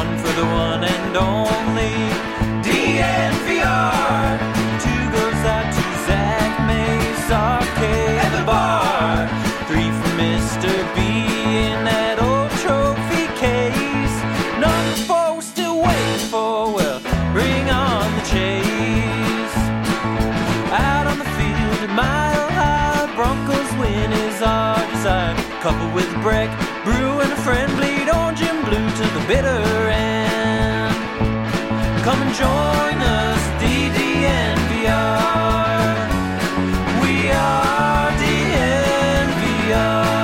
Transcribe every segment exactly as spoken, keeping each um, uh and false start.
one for the one and only D N V R. Two goes out to Zach Mace, Arcade, and the bar. Three for Mister B in that old trophy case. Number four we're still waiting for, well, bring on the chase. Out on the field, a mile high, Broncos win is our desire. Coupled with a break, brew and a friend, bleed orange and blue to the bitter end. Come and join us, D D N V R. We are D N V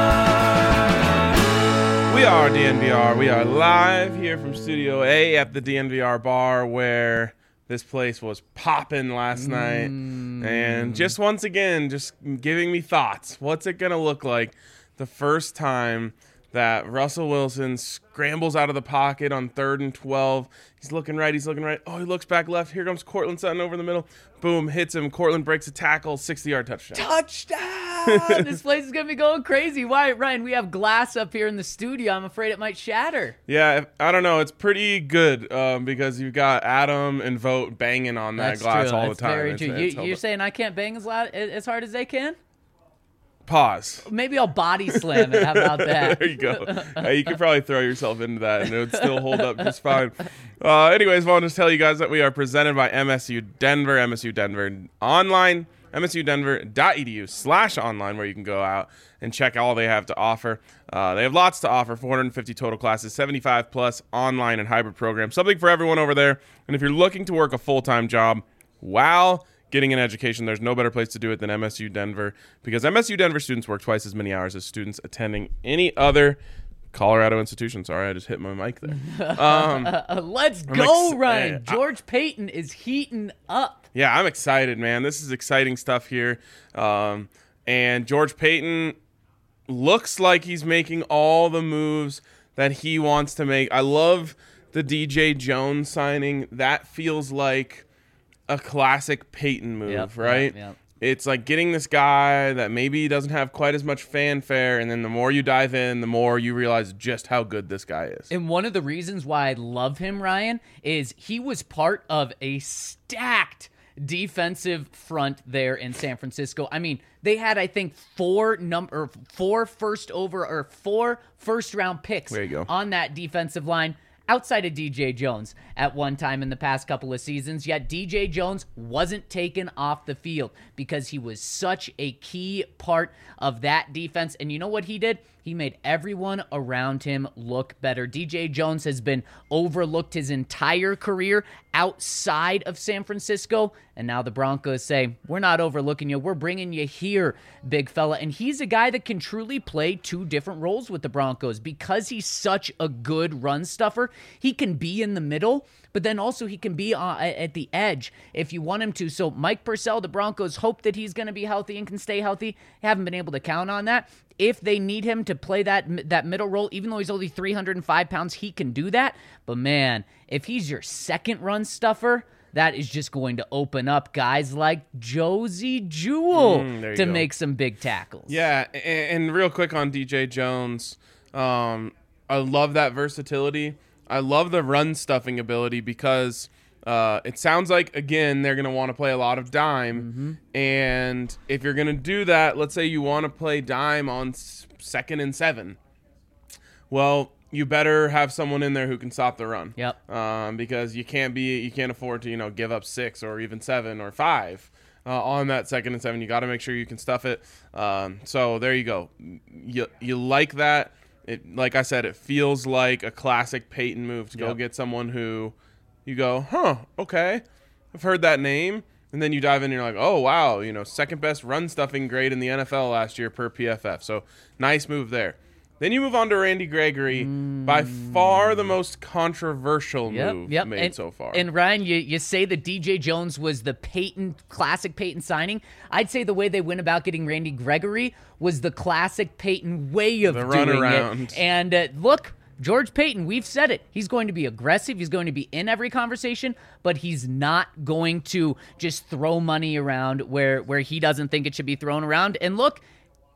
R. We are D N V R. We are live here from Studio A at the D N V R bar, where this place was popping last mm. night. And just once again, just giving me thoughts. What's it going to look like the first time that Russell Wilson scrambles out of the pocket on third and twelve? He's looking right, he's looking right. Oh, he looks back left. Here comes Courtland Sutton over the middle. Boom, hits him. Courtland breaks a tackle, sixty-yard touchdown. Touchdown! This place is going to be going crazy. Why, Ryan, we have glass up here in the studio. I'm afraid it might shatter. Yeah, I don't know. It's pretty good um, because you've got Adam and Vogt banging on that That's glass true. all That's the time. very It's, true. it's You, you're saying I can't bang as loud, as hard as they can? Pause. Maybe I'll body slam it. How about that? There you go. Uh, you could probably throw yourself into that and it would still hold up just fine. Uh, anyways, I want to just tell you guys that we are presented by M S U Denver, M S U Denver online, M S U Denver dot E D U slash online, where you can go out and check all they have to offer. Uh, they have lots to offer, four hundred fifty total classes, seventy-five plus online and hybrid programs, something for everyone over there. And if you're looking to work a full-time job, wow, getting an education, there's no better place to do it than M S U Denver, because M S U Denver students work twice as many hours as students attending any other Colorado institution. Sorry, I just hit my mic there. Um, Let's I'm go, ex- Ryan. I- George Payton is heating up. Yeah, I'm excited, man. This is exciting stuff here. Um, and George Payton looks like he's making all the moves that he wants to make. I love the D J Jones signing. That feels like a classic Peyton move, Yep, right? yep, yep. It's like getting this guy that maybe doesn't have quite as much fanfare, and then the more you dive in, the more you realize just how good this guy is. And one of the reasons why I love him, Ryan, is he was part of a stacked defensive front there in San Francisco. I mean, they had, I think, four number, four first over or four first round picks There you go. on that defensive line, outside of D J Jones at one time in the past couple of seasons. Yet D J Jones wasn't taken off the field because he was such a key part of that defense. And you know what he did? He made everyone around him look better. D J Jones has been overlooked his entire career outside of San Francisco. And now the Broncos say, we're not overlooking you. We're bringing you here, big fella. And he's a guy that can truly play two different roles with the Broncos because he's such a good run stuffer. He can be in the middle, but then also he can be uh, at the edge if you want him to. So Mike Purcell, the Broncos hope that he's going to be healthy and can stay healthy. Haven't been able to count on that. If they need him to play that that middle role, even though he's only three hundred five pounds, he can do that. But man, if he's your second run stuffer, that is just going to open up guys like Josie Jewell Mm, to go. make some big tackles. Yeah, and, and real quick on D J Jones, um, I love that versatility. I love the run stuffing ability because uh, it sounds like, again, they're going to want to play a lot of dime. Mm-hmm. And if you're going to do that, let's say you want to play dime on s- second and seven. Well, you better have someone in there who can stop the run. Yep. Um, because you can't be, you can't afford to, you know, give up six or even seven or five uh, on that second and seven. You got to make sure you can stuff it. Um, so there you go. You you like that? It, like I said, it feels like a classic Peyton move to go Yep. get someone who you go, huh, okay, I've heard that name. And then you dive in and you're like, oh, wow, you know, second best run stuffing grade in the N F L last year per P F F. So nice move there. Then you move on to Randy Gregory, mm. by far the most controversial Yep, move yep. made and, so far. And Ryan, you, you say that D J Jones was the Peyton, classic Peyton signing. I'd say the way they went about getting Randy Gregory was the classic Peyton way of The doing runaround. it. And uh, look, George Payton, we've said it. He's going to be aggressive. He's going to be in every conversation, but he's not going to just throw money around where, where he doesn't think it should be thrown around. And look,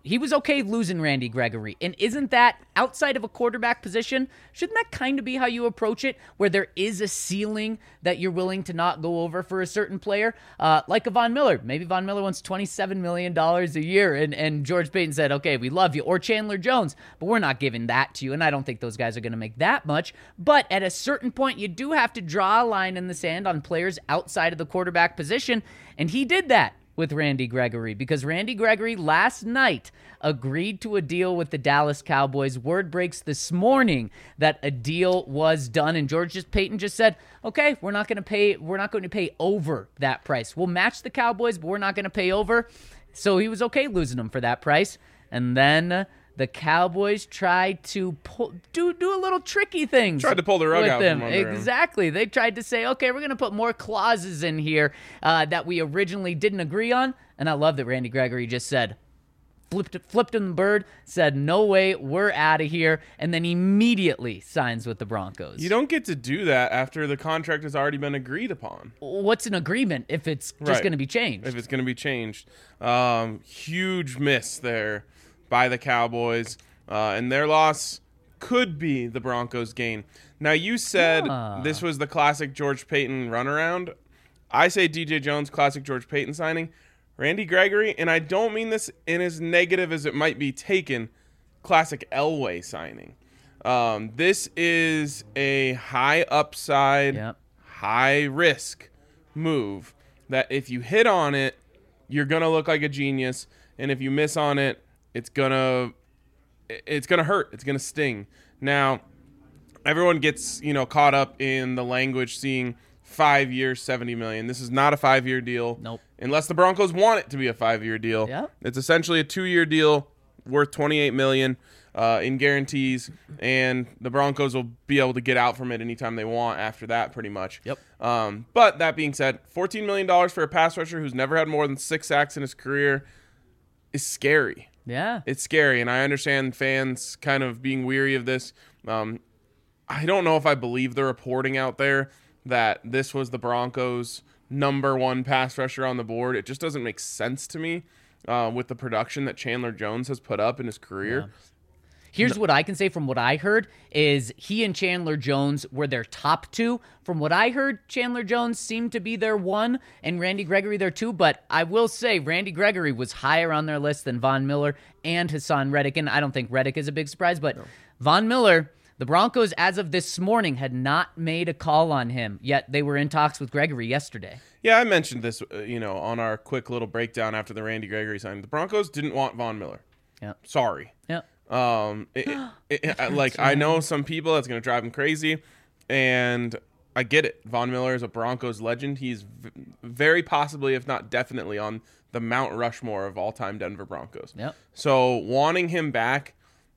he was okay losing Randy Gregory. And isn't that, outside of a quarterback position, shouldn't that kind of be how you approach it, where there is a ceiling that you're willing to not go over for a certain player? Uh, like a Von Miller. Maybe Von Miller wants twenty-seven million dollars a year, and, and George Paton said, okay, we love you. Or Chandler Jones, but we're not giving that to you, and I don't think those guys are going to make that much. But at a certain point, you do have to draw a line in the sand on players outside of the quarterback position, and he did that with Randy Gregory, because Randy Gregory last night agreed to a deal with the Dallas Cowboys. Word breaks this morning that a deal was done, and George just Paton just said, okay, we're not going to pay we're not going to pay over that price. We'll match the Cowboys, but we're not going to pay over. So he was okay losing them for that price. And then the Cowboys tried to pull, do do a little tricky things. Tried to pull the rug with out them. from under him. Exactly. They tried to say, okay, we're going to put more clauses in here uh, that we originally didn't agree on. And I love that Randy Gregory just said, flipped flipped him the bird, said, no way, we're out of here, and then immediately signs with the Broncos. You don't get to do that after the contract has already been agreed upon. What's an agreement if it's just Right. going to be changed? If it's going to be changed. Um, huge miss there by the Cowboys, uh, and their loss could be the Broncos' gain. Now, you said Ah. this was the classic George Paton runaround. I say D J Jones, classic George Paton signing. Randy Gregory, and I don't mean this in as negative as it might be taken, classic Elway signing. Um, this is a high upside, Yep. high risk move that if you hit on it, you're going to look like a genius, and if you miss on it, it's gonna it's gonna hurt. It's gonna sting. Now, everyone gets you know caught up in the language, seeing five years, seventy million. This is not a five-year deal. Nope. Unless the Broncos want it to be a five-year deal. Yeah. It's essentially a two-year deal worth twenty-eight million uh, in guarantees, and the Broncos will be able to get out from it anytime they want after that, pretty much. Yep. Um, but that being said, fourteen million dollars for a pass rusher who's never had more than six sacks in his career is scary. Yeah. It's scary, and I understand fans kind of being weary of this. Um, I don't know if I believe the reporting out there that this was the Broncos' number one pass rusher on the board. It just doesn't make sense to me uh, with the production that Chandler Jones has put up in his career. Here's what I can say from what I heard is he and Chandler Jones were their top two. From what I heard, Chandler Jones seemed to be their one and Randy Gregory their two. But I will say Randy Gregory was higher on their list than Von Miller and Hassan Reddick. And I don't think Reddick is a big surprise, but no. Von Miller, the Broncos, as of this morning, had not made a call on him, yet they were in talks with Gregory yesterday. Yeah, I mentioned this, uh, you know, on our quick little breakdown after the Randy Gregory signing. The Broncos didn't want Von Miller. Yeah. Sorry. Yeah. Um, it, it, it, like I know some people that's going to drive them crazy, and I get it. Von Miller is a Broncos legend. He's v- very possibly, if not definitely, on the Mount Rushmore of all-time Denver Broncos. Yep. So wanting him back,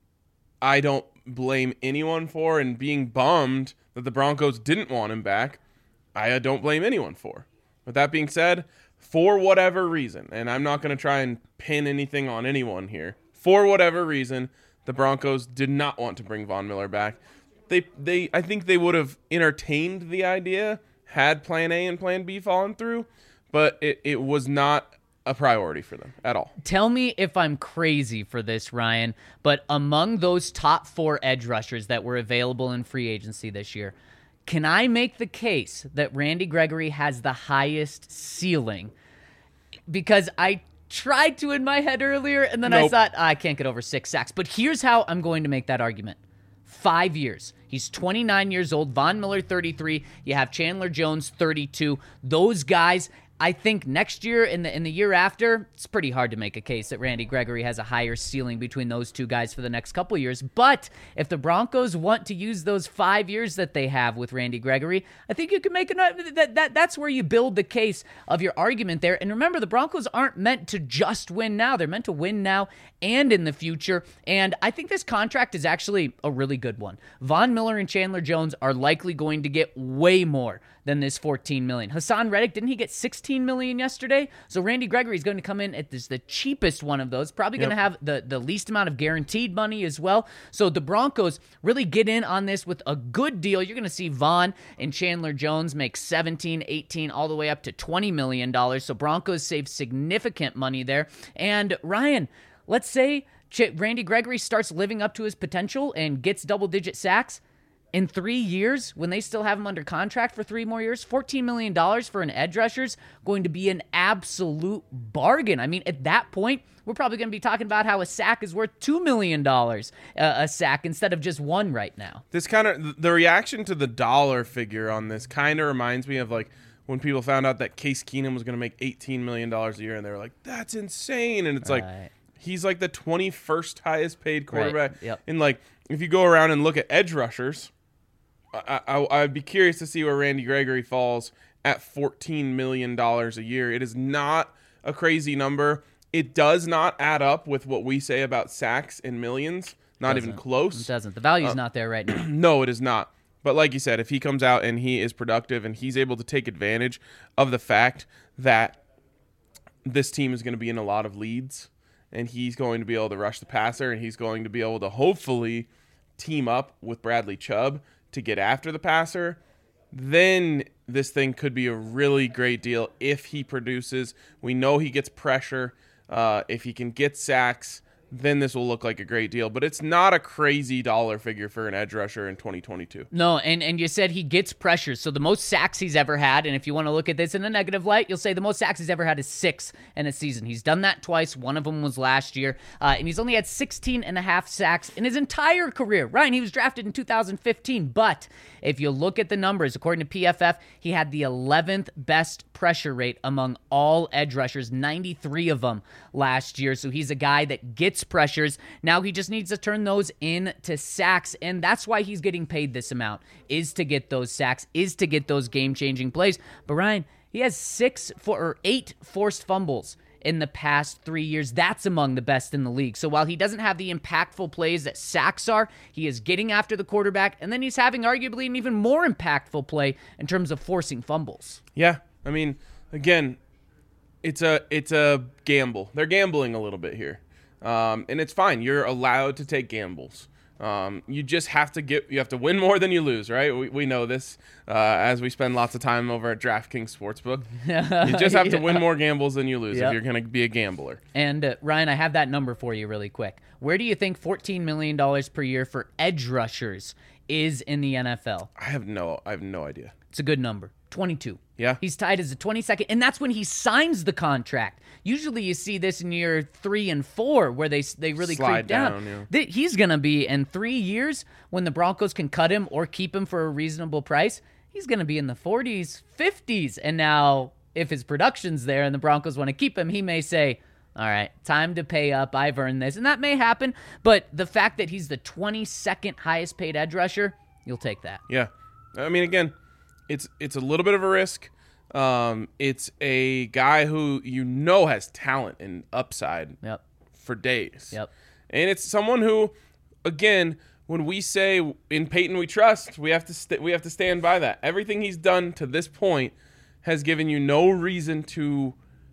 I don't blame anyone for, and being bummed that the Broncos didn't want him back, I don't blame anyone for. With that being said, for whatever reason, and I'm not going to try and pin anything on anyone here, for whatever reason, the Broncos did not want to bring Von Miller back. They, they, I think they would have entertained the idea had Plan A and Plan B fallen through, but it, it was not a priority for them at all. Tell me if I'm crazy for this, Ryan, but among those top four edge rushers that were available in free agency this year, can I make the case that Randy Gregory has the highest ceiling? Because I tried to in my head earlier, and then Nope. I thought, I can't get over six sacks. But here's how I'm going to make that argument. Five years. He's twenty-nine years old. Von Miller, thirty-three. You have Chandler Jones, thirty-two. Those guys, I think next year and the in the year after, it's pretty hard to make a case that Randy Gregory has a higher ceiling between those two guys for the next couple years. But if the Broncos want to use those five years that they have with Randy Gregory, I think you can make an that, that that's where you build the case of your argument there. And remember, the Broncos aren't meant to just win now. They're meant to win now and in the future. And I think this contract is actually a really good one. Von Miller and Chandler Jones are likely going to get way more than this fourteen million dollars. Hassan Reddick, didn't he get sixteen million dollars yesterday? So Randy Gregory is going to come in at this, the cheapest one of those, probably going to Yep. have the, the least amount of guaranteed money as well. So the Broncos really get in on this with a good deal. You're going to see Von and Chandler Jones make seventeen, eighteen, all the way up to twenty million dollars. So Broncos save significant money there. And Ryan, let's say Ch- Randy Gregory starts living up to his potential and gets double-digit sacks. In three years, when they still have him under contract for three more years, fourteen million dollars for an edge rusher is going to be an absolute bargain. I mean, at that point, we're probably going to be talking about how a sack is worth two million dollars uh, a sack instead of just one right now. This kind of, the reaction to the dollar figure on this kind of reminds me of like when people found out that Case Keenum was going to make eighteen million dollars a year, and they were like, that's insane. And it's Right. like, he's like the twenty-first highest paid quarterback. Right. Yep. And like, if you go around and look at edge rushers, I, I, I'd be curious to see where Randy Gregory falls at fourteen million dollars a year. It is not a crazy number. It does not add up with what we say about sacks in millions. Not Doesn't. even close. It doesn't. The value's Uh, not there right now. No, it is not. But like you said, if he comes out and he is productive and he's able to take advantage of the fact that this team is going to be in a lot of leads and he's going to be able to rush the passer and he's going to be able to hopefully team up with Bradley Chubb to get after the passer, then this thing could be a really great deal if he produces. We know he gets pressure. Uh, if he can get sacks, then this will look like a great deal. But it's not a crazy dollar figure for an edge rusher in twenty twenty-two. No, and, and you said he gets pressure. So the most sacks he's ever had, and if you want to look at this in a negative light, you'll say the most sacks he's ever had is six in a season. He's done that twice. One of them was last year. Uh, and he's only had sixteen and a half sacks in his entire career. Ryan, he was drafted in two thousand fifteen. But if you look at the numbers, according to P F F, he had the eleventh best pressure rate among all edge rushers, ninety-three of them last year. So he's a guy that gets pressures. Now he just needs to turn those into sacks, and that's why he's getting paid this amount, is to get those sacks, is to get those game-changing plays. But Ryan, he has six for, or eight forced fumbles in the past three years. That's among the best in the league. So while he doesn't have the impactful plays that sacks are, he is getting after the quarterback, and then he's having arguably an even more impactful play in terms of forcing fumbles. Yeah, I mean, again, it's a it's a gamble. They're gambling a little bit here. Um, and it's fine. You're allowed to take gambles. Um, you just have to get, you have to win more than you lose, right? We, we know this uh, as we spend lots of time over at DraftKings Sportsbook. You just have to Yeah. win more gambles than you lose Yep. if you're going to be a gambler. And uh, Ryan, I have that number for you really quick. Where do you think fourteen million dollars per year for edge rushers is in the N F L? I have no, I have no idea. It's a good number. twenty-two. Yeah. He's tied as a twenty-second, and that's when he signs the contract. Usually you see this in year three and four where they they really Slide creep down. down, yeah. Th- He's going to be, in three years, when the Broncos can cut him or keep him for a reasonable price, he's going to be in the forties, fifties. And now, if his production's there and the Broncos want to keep him, he may say, all right, time to pay up. I've earned this. And that may happen, but the fact that he's the twenty-second highest paid edge rusher, you'll take that. Yeah. I mean, again, it's it's a little bit of a risk. Um, it's a guy who you know has talent and upside Yep. for days. Yep. And it's someone who, again, when we say in Peyton we trust, we have to st- we have to stand by that. Everything he's done to this point has given you no reason to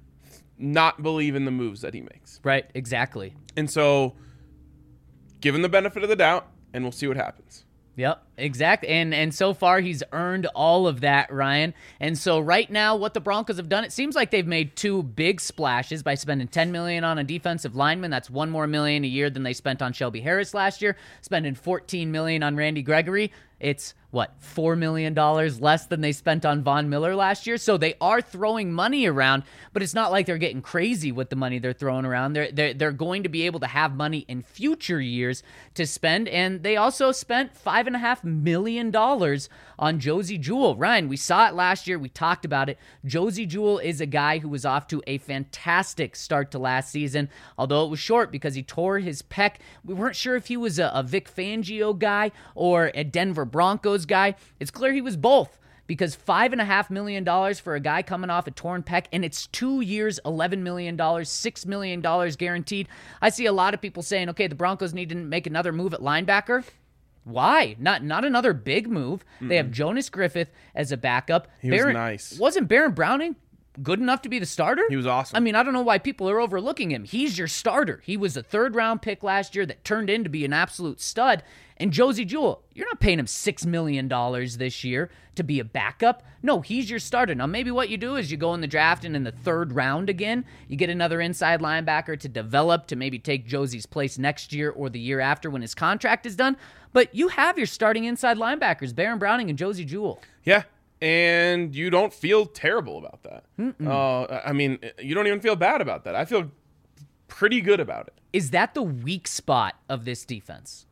not believe in the moves that he makes. Right, exactly. And so, give him the benefit of the doubt, and we'll see what happens. Yep, exact. And and so far he's earned all of that, Ryan. And so right now what the Broncos have done, it seems like they've made two big splashes by spending ten million dollars on a defensive lineman. That's one more million a year than they spent on Shelby Harris last year. Spending fourteen million dollars on Randy Gregory. It's what, four million dollars less than they spent on Von Miller last year. So they are throwing money around, but it's not like they're getting crazy with the money they're throwing around. They're, they're, they're going to be able to have money in future years to spend. And they also spent five and a half million dollars on Josey Jewell. Ryan, we saw it last year. We talked about it. Josey Jewell is a guy who was off to a fantastic start to last season, although it was short because he tore his pec. We weren't sure if he was a, a Vic Fangio guy or a Denver Broncos guy. It's clear he was both, because five and a half million dollars for a guy coming off a torn pec, and it's two years, eleven million dollars, six million dollars guaranteed. I see a lot of people saying, okay, the Broncos need to make another move at linebacker. Why? Not not another big move. Mm-mm. They have Jonas Griffith as a backup. He Baron, was nice. Wasn't Baron Browning good enough to be the starter? He was awesome. I mean, I don't know why people are overlooking him. He's your starter. He was a third-round pick last year that turned into be an absolute stud. And Josie Jewell, you're not paying him six million dollars this year to be a backup. No, he's your starter. Now, maybe what you do is you go in the draft and in the third round again, you get another inside linebacker to develop to maybe take Josie's place next year or the year after when his contract is done. But you have your starting inside linebackers, Baron Browning and Josie Jewell. Yeah. And you don't feel terrible about that. Uh, I mean, you don't even feel bad about that. I feel pretty good about it. Is that the weak spot of this defense?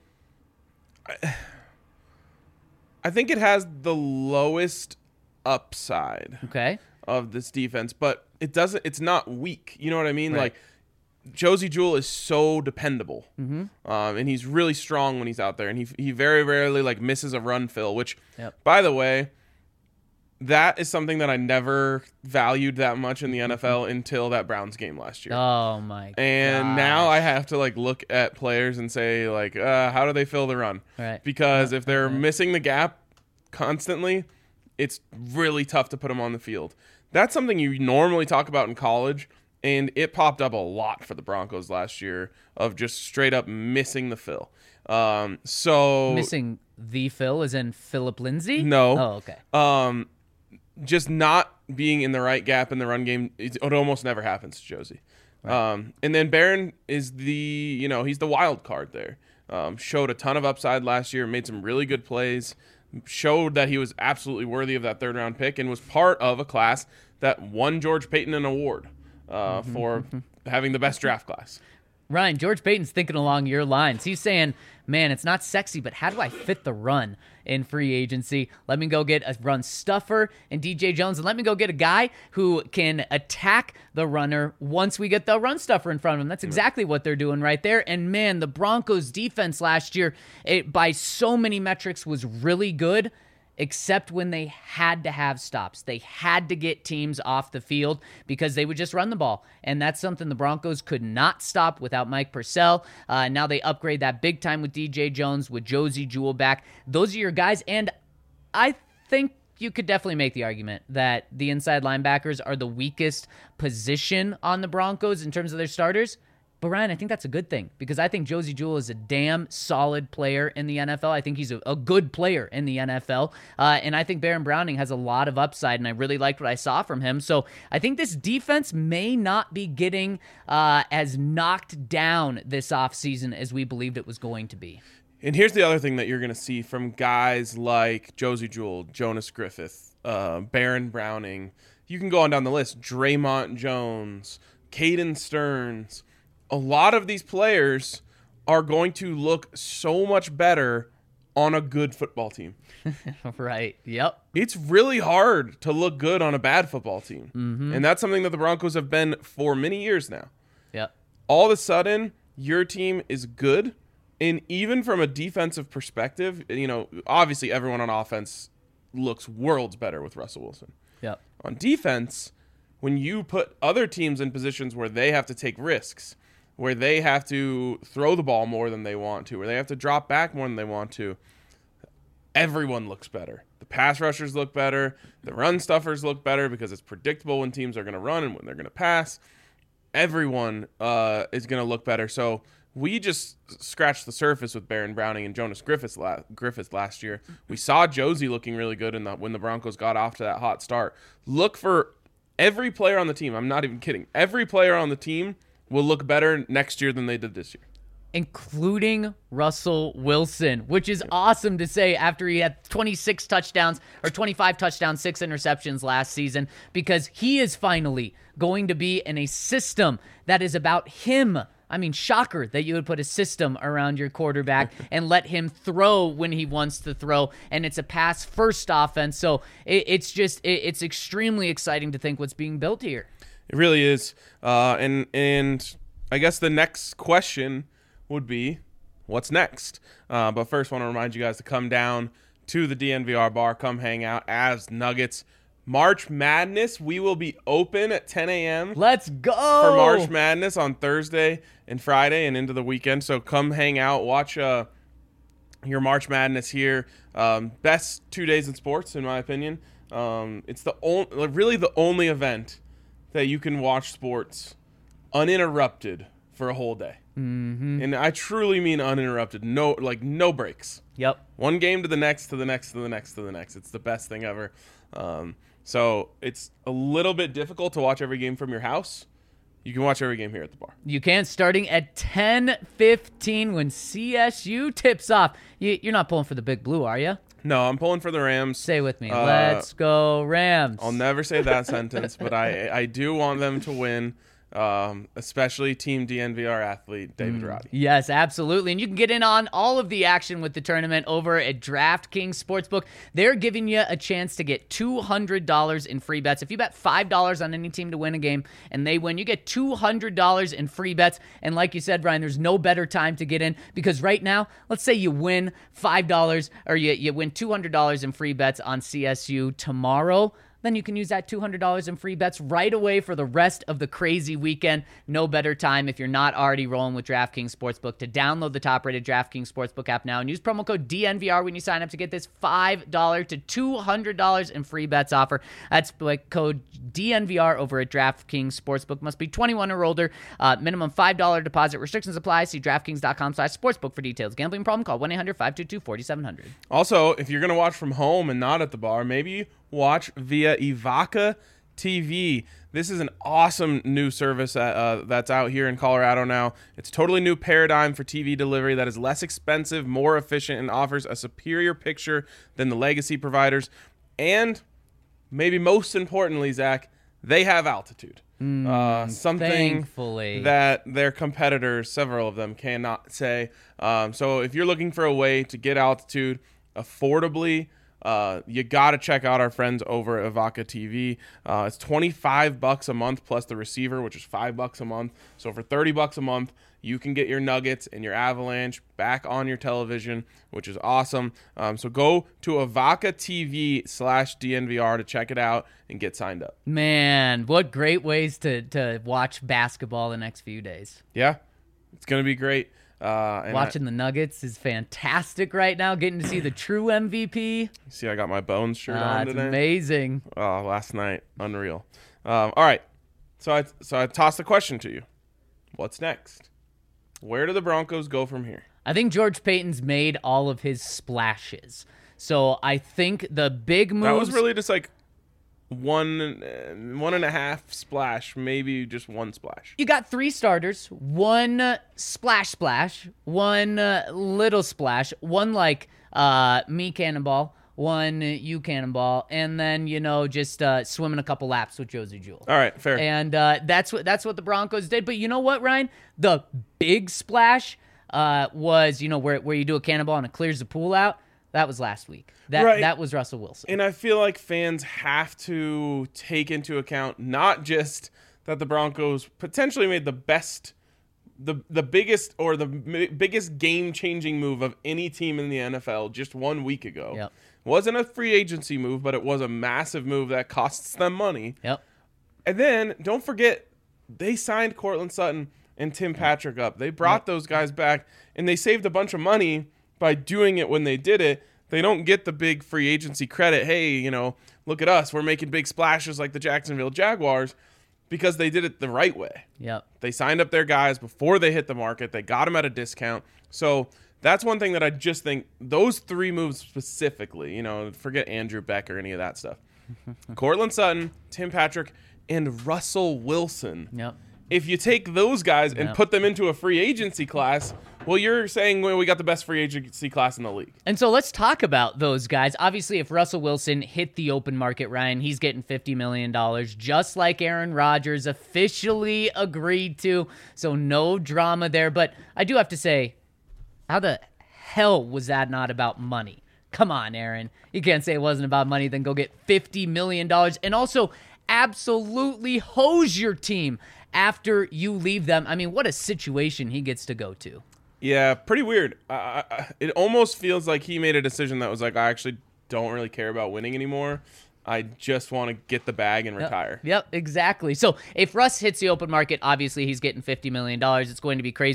I think it has the lowest upside Okay. of this defense, but it doesn't. It's not weak. You know what I mean? Right. Like Josie Jewell is so dependable, mm-hmm. um, and he's really strong when he's out there, and he he very rarely like misses a run fill. Which, Yep. by the way, that is something that I never valued that much in the N F L until that Browns game last year. Oh, my And gosh. now I have to like look at players and say like, uh, how do they fill the run? Right. Because if they're missing the gap constantly, it's really tough to put them on the field. That's something you normally talk about in college, and it popped up a lot for the Broncos last year of just straight up missing the fill. Um, so Missing the Phil as in Philip Lindsay? No. Oh, okay. um, just not being in the right gap in the run game, it, it almost never happens to Josie. Um, and then Barron is the, you know, he's the wild card there. Um, showed a ton of upside last year, made some really good plays, showed that he was absolutely worthy of that third round pick, and was part of a class that won George Payton an award uh, for having the best draft class. Ryan, George Payton's thinking along your lines. He's saying, man, it's not sexy, but how do I fit the run in free agency? Let me go get a run stuffer and D J Jones, and let me go get a guy who can attack the runner once we get the run stuffer in front of him. That's exactly what they're doing right there. And, man, the Broncos' defense last year, it, by so many metrics, was really good, except when they had to have stops. They had to get teams off the field because they would just run the ball. And that's something the Broncos could not stop without Mike Purcell. Uh, now they upgrade that big time with D J Jones, with Josie Jewell back. Those are your guys. And I think you could definitely make the argument that the inside linebackers are the weakest position on the Broncos in terms of their starters. But, Ryan, I think that's a good thing because I think Josie Jewell is a damn solid player in the N F L. I think he's a, a good player in the N F L. Uh, and I think Baron Browning has a lot of upside, and I really liked what I saw from him. So I think this defense may not be getting uh, as knocked down this offseason as we believed it was going to be. And here's the other thing that you're going to see from guys like Josie Jewell, Jonas Griffith, uh, Baron Browning. You can go on down the list. Draymond Jones, Caden Stearns. A lot of these players are going to look so much better on a good football team. Right. Yep. It's really hard to look good on a bad football team. Mm-hmm. And that's something that the Broncos have been for many years now. Yep. All of a sudden, your team is good. And even from a defensive perspective, you know, obviously everyone on offense looks worlds better with Russell Wilson. Yep. On defense, when you put other teams in positions where they have to take risks, where they have to throw the ball more than they want to, where they have to drop back more than they want to, everyone looks better. The pass rushers look better. The run stuffers look better because it's predictable when teams are going to run and when they're going to pass. Everyone uh, is going to look better. So we just scratched the surface with Baron Browning and Jonas Griffith, la- Griffith last year. We saw Josie looking really good in the, when the Broncos got off to that hot start. Look for every player on the team. I'm not even kidding. Every player on the team will look better next year than they did this year. Including Russell Wilson, which is awesome to say after he had twenty-six touchdowns or twenty-five touchdowns, six interceptions last season, because he is finally going to be in a system that is about him. I mean, shocker that you would put a system around your quarterback and let him throw when he wants to throw, and it's a pass-first offense. So it, it's just it, it's extremely exciting to think what's being built here. It really is. Uh, and and I guess the next question would be, what's next? Uh, but first, I want to remind you guys to come down to the D N V R bar. Come hang out as Nuggets. March Madness, we will be open at ten a.m. Let's go! for March Madness on Thursday and Friday and into the weekend. So come hang out. Watch uh, your March Madness here. Um, best two days in sports, in my opinion. Um, it's the only, really the only event that you can watch sports uninterrupted for a whole day. Mm-hmm. And I truly mean uninterrupted. No, like no breaks. Yep. One game to the next, to the next, to the next, to the next. It's the best thing ever. Um, so it's a little bit difficult to watch every game from your house. You can watch every game here at the bar. You can, starting at ten fifteen when C S U tips off. You, you're not pulling for the Big Blue, are you? No, I'm pulling for the Rams. Say with me. Uh, Let's go Rams. I'll never say that sentence, but I I do want them to win. Um, especially Team D N V R athlete David Mm. Roddy. Yes, absolutely. And you can get in on all of the action with the tournament over at DraftKings Sportsbook. They're giving you a chance to get two hundred dollars in free bets. If you bet five dollars on any team to win a game and they win, you get two hundred dollars in free bets. And like you said, Ryan, there's no better time to get in because right now, let's say you win five dollars or you, you win two hundred dollars in free bets on C S U tomorrow. Then you can use that two hundred dollars in free bets right away for the rest of the crazy weekend. No better time if you're not already rolling with DraftKings Sportsbook to download the top-rated DraftKings Sportsbook app now and use promo code D N V R when you sign up to get this five dollars to two hundred dollars in free bets offer. That's like code D N V R over at DraftKings Sportsbook. Must be twenty-one or older. Uh, minimum five dollars deposit. Restrictions apply. See DraftKings.com slash sportsbook for details. Gambling problem? Call one eight hundred five two two four seven zero zero. Also, if you're going to watch from home and not at the bar, maybe watch via Evoca T V. This is an awesome new service that, uh, that's out here in Colorado now. It's a totally new paradigm for T V delivery that is less expensive, more efficient, and offers a superior picture than the legacy providers. And maybe most importantly, Zach, they have altitude. Mm, uh, something thankfully. that their competitors, several of them, cannot say. Um, so if you're looking for a way to get altitude affordably, Uh, you got to check out our friends over at Evoca T V. Uh, it's twenty-five bucks a month plus the receiver, which is five bucks a month. So for thirty bucks a month, you can get your Nuggets and your Avalanche back on your television, which is awesome. Um, so go to Evoca T V slash D N V R to check it out and get signed up. Man, what great ways to, to watch basketball the next few days. Yeah, it's going to be great. Uh, and Watching I, the Nuggets is fantastic right now. Getting to see the true M V P. See, I got my Bones shirt uh, on it's today. Amazing. Oh, last night, unreal. Um, all right, so I so I tossed the question to you. What's next? Where do the Broncos go from here? I think George Payton's made all of his splashes. So I think the big moves. That was really just like one one and a half splash, maybe just one splash. You got three starters, one uh, splash splash, one uh, little splash, one like uh, me cannonball, one uh, you cannonball, and then you know just uh, swimming a couple laps with Josie Jewell. All right, fair. And uh, that's what that's what the Broncos did. But you know what, Ryan? The big splash uh, was you know where where you do a cannonball and it clears the pool out. That was last week. That right. that was Russell Wilson. And I feel like fans have to take into account not just that the Broncos potentially made the best, the the biggest or the m- biggest game-changing move of any team in the N F L just one week ago. Yep. Wasn't a free agency move, but it was a massive move that costs them money. Yep. And then don't forget, they signed Cortland Sutton and Tim Patrick up. They brought yep. those guys back, and they saved a bunch of money by doing it when they did it. They don't get the big free agency credit. Hey, you know, look at us. We're making big splashes like the Jacksonville Jaguars because they did it the right way. Yep. They signed up their guys before they hit the market. They got them at a discount. So that's one thing that I just think those three moves specifically, you know, forget Andrew Beck or any of that stuff. Cortland Sutton, Tim Patrick, and Russell Wilson. Yep. If you take those guys and Yep. put them into a free agency class, well, you're saying well, we got the best free agency class in the league. And so let's talk about those guys. Obviously, if Russell Wilson hit the open market, Ryan, he's getting fifty million dollars, just like Aaron Rodgers officially agreed to. So no drama there. But I do have to say, how the hell was that not about money? Come on, Aaron. You can't say it wasn't about money, then go get fifty million dollars. And also absolutely hose your team after you leave them. I mean, what a situation he gets to go to. Yeah, pretty weird. Uh, it almost feels like he made a decision that was like, I actually don't really care about winning anymore. I just want to get the bag and retire. Yep, yep, exactly. So if Russ hits the open market, obviously he's getting fifty million dollars. It's going to be crazy.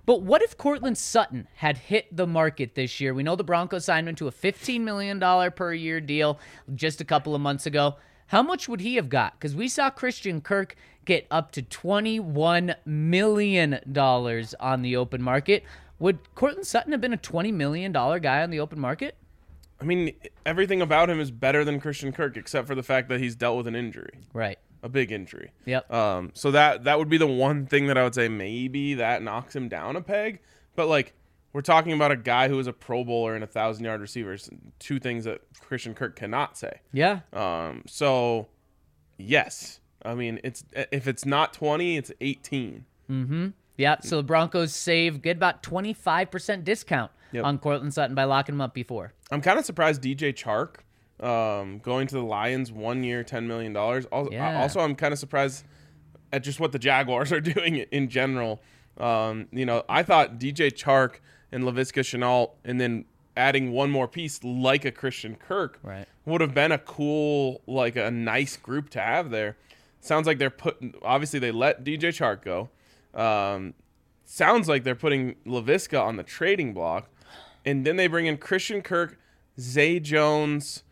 But what if Cortland Sutton had hit the market this year? We know the Broncos signed him to a fifteen million dollars per year deal just a couple of months ago. How much would he have got? Because we saw Christian Kirk get up to twenty-one million dollars on the open market. Would Cortland Sutton have been a twenty million dollars guy on the open market? I mean, everything about him is better than Christian Kirk, except for the fact that he's dealt with an injury. Right. A big injury. Yep. Um, so that that would be the one thing that I would say maybe that knocks him down a peg. But, like, we're talking about a guy who is a Pro Bowler and a thousand-yard receiver. Two things that Christian Kirk cannot say. Yeah. Um. So, yes. I mean, it's if it's not twenty, it's eighteen. Mm-hmm. Yeah, so the Broncos save, get about twenty-five percent discount Yep. on Cortland Sutton by locking him up before. I'm kind of surprised D J Chark um, going to the Lions one year, ten million dollars. Also, Yeah. also, I'm kind of surprised at just what the Jaguars are doing in general. Um, you know, I thought D J Chark and Laviska Shenault and then adding one more piece like a Christian Kirk Right. would have been a cool, like a nice group to have there. Sounds like they're putting, obviously they let D J Chark go. Um, sounds like they're putting Laviska on the trading block. And then they bring in Christian Kirk, Zay Jones,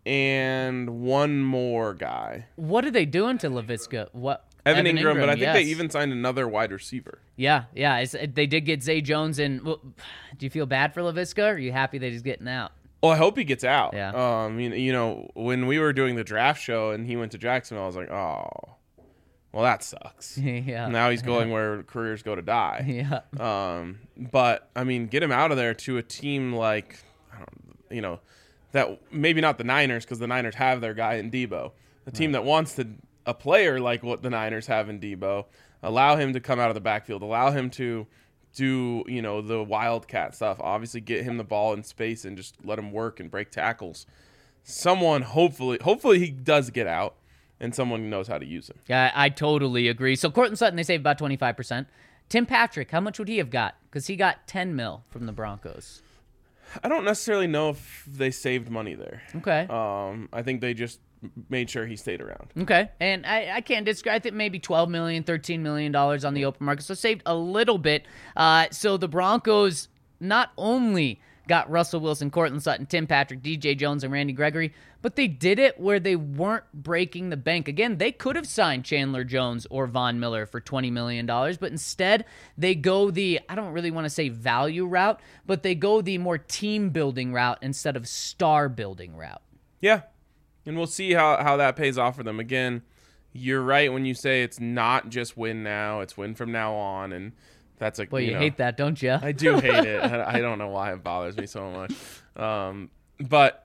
and one more guy. What are they doing to Laviska? What Evan, Ingram, but I think they yes. even signed another wide receiver. Yeah, yeah. It's, they did get Zay Jones, and well, do you feel bad for Laviska, or are you happy that he's getting out? Well, I hope he gets out. Yeah. Um, you, you know, when we were doing the draft show and he went to Jacksonville, I was like, oh, well, that sucks. yeah. Now he's going where careers go to die. Yeah. Um, but I mean, get him out of there to a team like, I don't, you know, that maybe not the Niners because the Niners have their guy in Debo. A team that wants to a player like what the Niners have in Debo, allow him to come out of the backfield, allow him to do, you know, the wildcat stuff. Obviously, get him the ball in space and just let him work and break tackles. Someone hopefully, hopefully he does get out. And someone knows how to use him. Yeah, I totally agree. So Cortland Sutton, they saved about twenty-five percent. Tim Patrick, how much would he have got? Because he got ten mil from the Broncos. I don't necessarily know if they saved money there. Okay. Um, I think they just made sure he stayed around. Okay. And I, I can't disagree. I think maybe twelve million dollars, thirteen million dollars on the open market. So saved a little bit. Uh, so the Broncos not only got Russell Wilson, Cortland Sutton, Tim Patrick, D J Jones, and Randy Gregory, but they did it where they weren't breaking the bank. Again, they could have signed Chandler Jones or Von Miller for twenty million dollars, but instead they go the, I don't really want to say value route, but they go the more team-building route instead of star-building route. Yeah. And we'll see how, how that pays off for them. Again, you're right when you say it's not just win now, it's win from now on, and that's like, Boy, you, you know, hate that, don't you? I do hate it. I I don't know why it bothers me so much. Um, but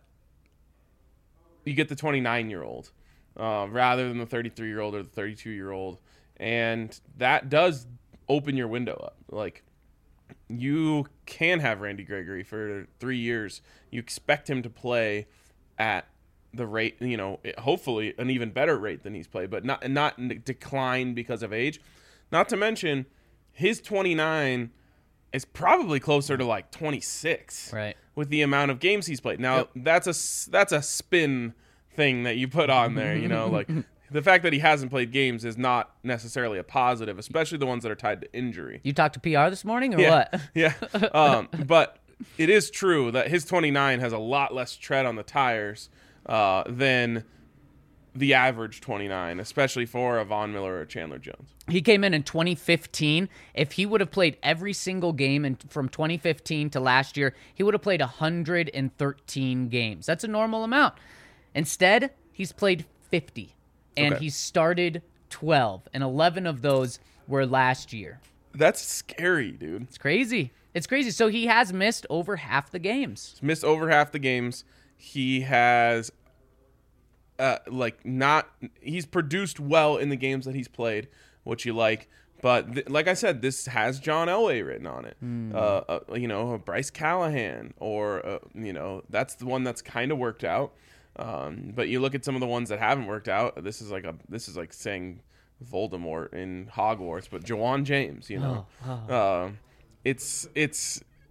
you get the twenty-nine-year-old uh, rather than the thirty-three-year-old or the thirty-two-year-old, and that does open your window up. Like, you can have Randy Gregory for three years. You expect him to play at the rate, you know, hopefully an even better rate than he's played, but not not decline because of age. Not to mention, his twenty-nine is probably closer to like twenty-six, Right. with the amount of games he's played. Now, Yep. that's a that's a spin thing that you put on there, you know, like the fact that he hasn't played games is not necessarily a positive, especially the ones that are tied to injury. You talked to P R this morning or Yeah, what? yeah. Um, but it is true that his twenty-nine has a lot less tread on the tires uh, than the average twenty-nine, especially for a Von Miller or a Chandler Jones. He came in in twenty fifteen. If he would have played every single game in, from twenty fifteen to last year, he would have played one hundred thirteen games. That's a normal amount. Instead, he's played fifty, and Okay. he started twelve, and eleven of those were last year. That's scary, dude. It's crazy. It's crazy. So he has missed over half the games. He's missed over half the games. He has uh, like not he's produced well in the games that he's played, which you like. But th- like I said, this has John Elway written on it. Mm. Uh, uh, you know, Bryce Callahan, or uh, you know, that's the one that's kind of worked out. Um, but you look at some of the ones that haven't worked out. This is like a this is like saying Voldemort in Hogwarts, but Jawan James. You know, Oh, uh, it's it's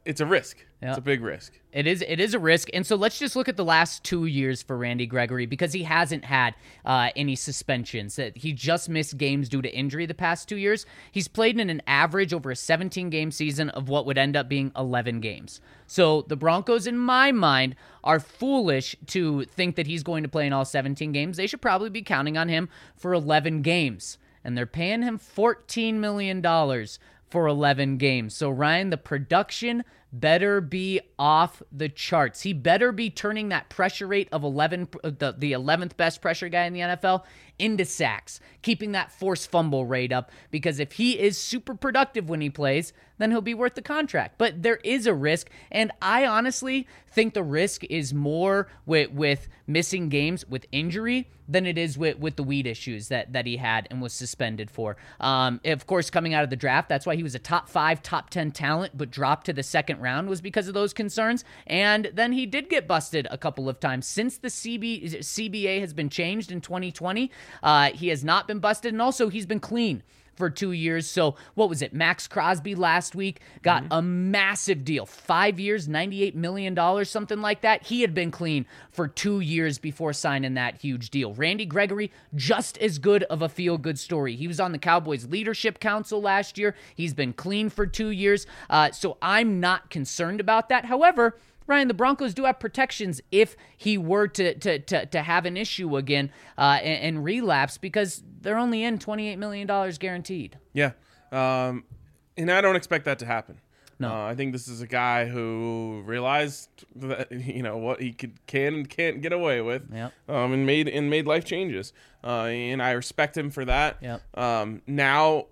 it's a risk. Yeah. It's a big risk. It is it is a risk. And so let's just look at the last two years for Randy Gregory, because he hasn't had uh, any suspensions. He just missed games due to injury the past two years. He's played in an average over a seventeen-game season of what would end up being eleven games. So the Broncos, in my mind, are foolish to think that he's going to play in all seventeen games. They should probably be counting on him for eleven games. And they're paying him fourteen million dollars for eleven games. So, Ryan, the production better be off the charts. He better be turning that pressure rate of eleven, the, the eleventh best pressure guy in the N F L into sacks, keeping that forced fumble rate up, because if he is super productive when he plays, then he'll be worth the contract. But there is a risk, and I honestly think the risk is more with, with missing games with injury than it is with, with the weed issues that, that he had and was suspended for. Um, of course, coming out of the draft, that's why he was a top five, top ten talent, but dropped to the second round was because of those concerns. And then he did get busted a couple of times. Since the C B, C B A has been changed in twenty twenty, uh, he has not been busted, and also he's been clean for two years. So what was it? Max Crosby last week got mm-hmm. a massive deal. Five years, ninety-eight million dollars, something like that. He had been clean for two years before signing that huge deal. Randy Gregory, just as good of a feel-good story. He was on the Cowboys Leadership Council last year. He's been clean for two years. Uh, so I'm not concerned about that. However, Ryan, the Broncos do have protections if he were to to to, to have an issue again uh, and, and relapse, because they're only in twenty-eight million dollars guaranteed. Yeah, um, and I don't expect that to happen. No, uh, I think this is a guy who realized that, you know, what he could can and can't get away with, yep. um, and made and made life changes. Uh, and I respect him for that. Yep. Um, now.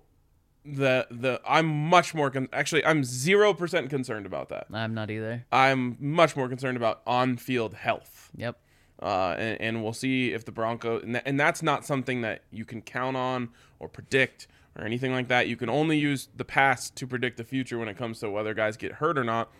The the I'm much more con- actually I'm zero percent concerned about that. I'm not either. I'm much more concerned about on-field health. Yep. Uh, and, and we'll see if the Broncos and, th- and that's not something that you can count on or predict or anything like that. You can only use the past to predict the future when it comes to whether guys get hurt or not.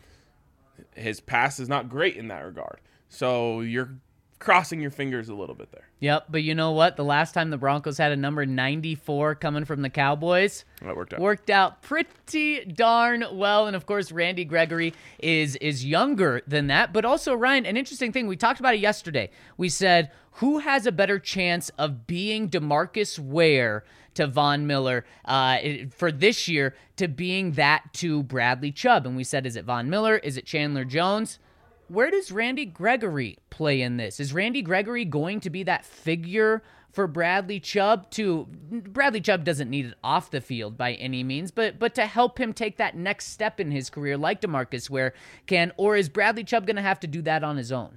His past is not great in that regard, so you're crossing your fingers a little bit there. Yep, but you know what? The last time the Broncos had a number ninety-four coming from the Cowboys, that worked out. Worked out pretty darn well. And of course, Randy Gregory is is younger than that. But also, Ryan, an interesting thing, we talked about it yesterday. We said, who has a better chance of being DeMarcus Ware to Von Miller uh, for this year to being that to Bradley Chubb? And we said, is it Von Miller? Is it Chandler Jones? Where does Randy Gregory play in this? Is Randy Gregory going to be that figure for Bradley Chubb to Bradley Chubb doesn't need it off the field by any means, but but to help him take that next step in his career like DeMarcus Ware can, or is Bradley Chubb going to have to do that on his own?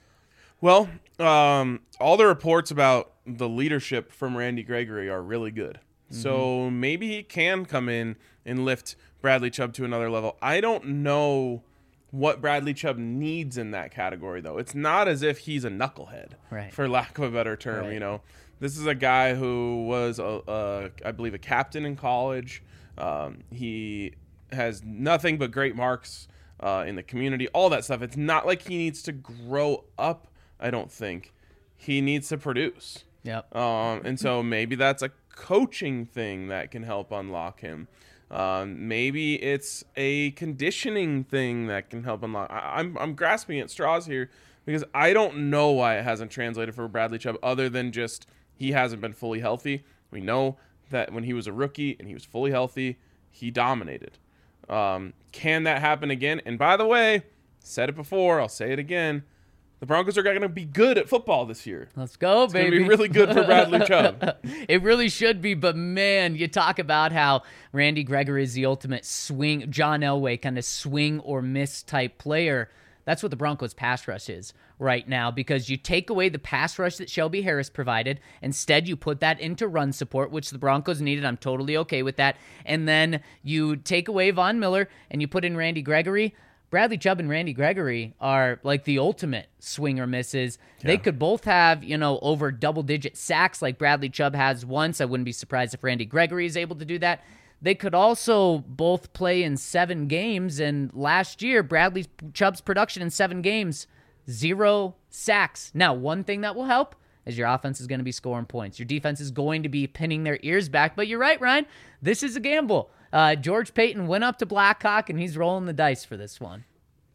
Well, um, all the reports about the leadership from Randy Gregory are really good. Mm-hmm. So maybe he can come in and lift Bradley Chubb to another level. I don't know what Bradley Chubb needs in that category, though. It's not as if he's a knucklehead, right, for lack of a better term. Right. You know, this is a guy who was, a, a, I believe, a captain in college. Um, he has nothing but great marks uh, in the community, all that stuff. It's not like he needs to grow up, I don't think. He needs to produce. Yep. Um, and so maybe that's a coaching thing that can help unlock him. Um, maybe it's a conditioning thing that can help unlock. I, I'm I'm grasping at straws here because I don't know why it hasn't translated for Bradley Chubb other than just he hasn't been fully healthy. We know that when he was a rookie and he was fully healthy, he dominated. Um, can that happen again? And by the way, said it before, I'll say it again. The Broncos are going to be good at football this year. Let's go, it's baby. It's going to be really good for Bradley Chubb. It really should be, but man, you talk about how Randy Gregory is the ultimate swing, John Elway kind of swing or miss type player. That's what the Broncos pass rush is right now, because you take away the pass rush that Shelby Harris provided. Instead, you put that into run support, which the Broncos needed. I'm totally okay with that. And then you take away Von Miller and you put in Randy Gregory. Bradley Chubb and Randy Gregory are like the ultimate swing or misses. Yeah. They could both have, you know, over double-digit sacks like Bradley Chubb has once. I wouldn't be surprised if Randy Gregory is able to do that. They could also both play in seven games, and last year, Bradley Chubb's production in seven games, zero sacks. Now, one thing that will help is your offense is going to be scoring points. Your defense is going to be pinning their ears back, but you're right, Ryan. This is a gamble. uh, George Payton went up to Blackhawk, and he's rolling the dice for this one.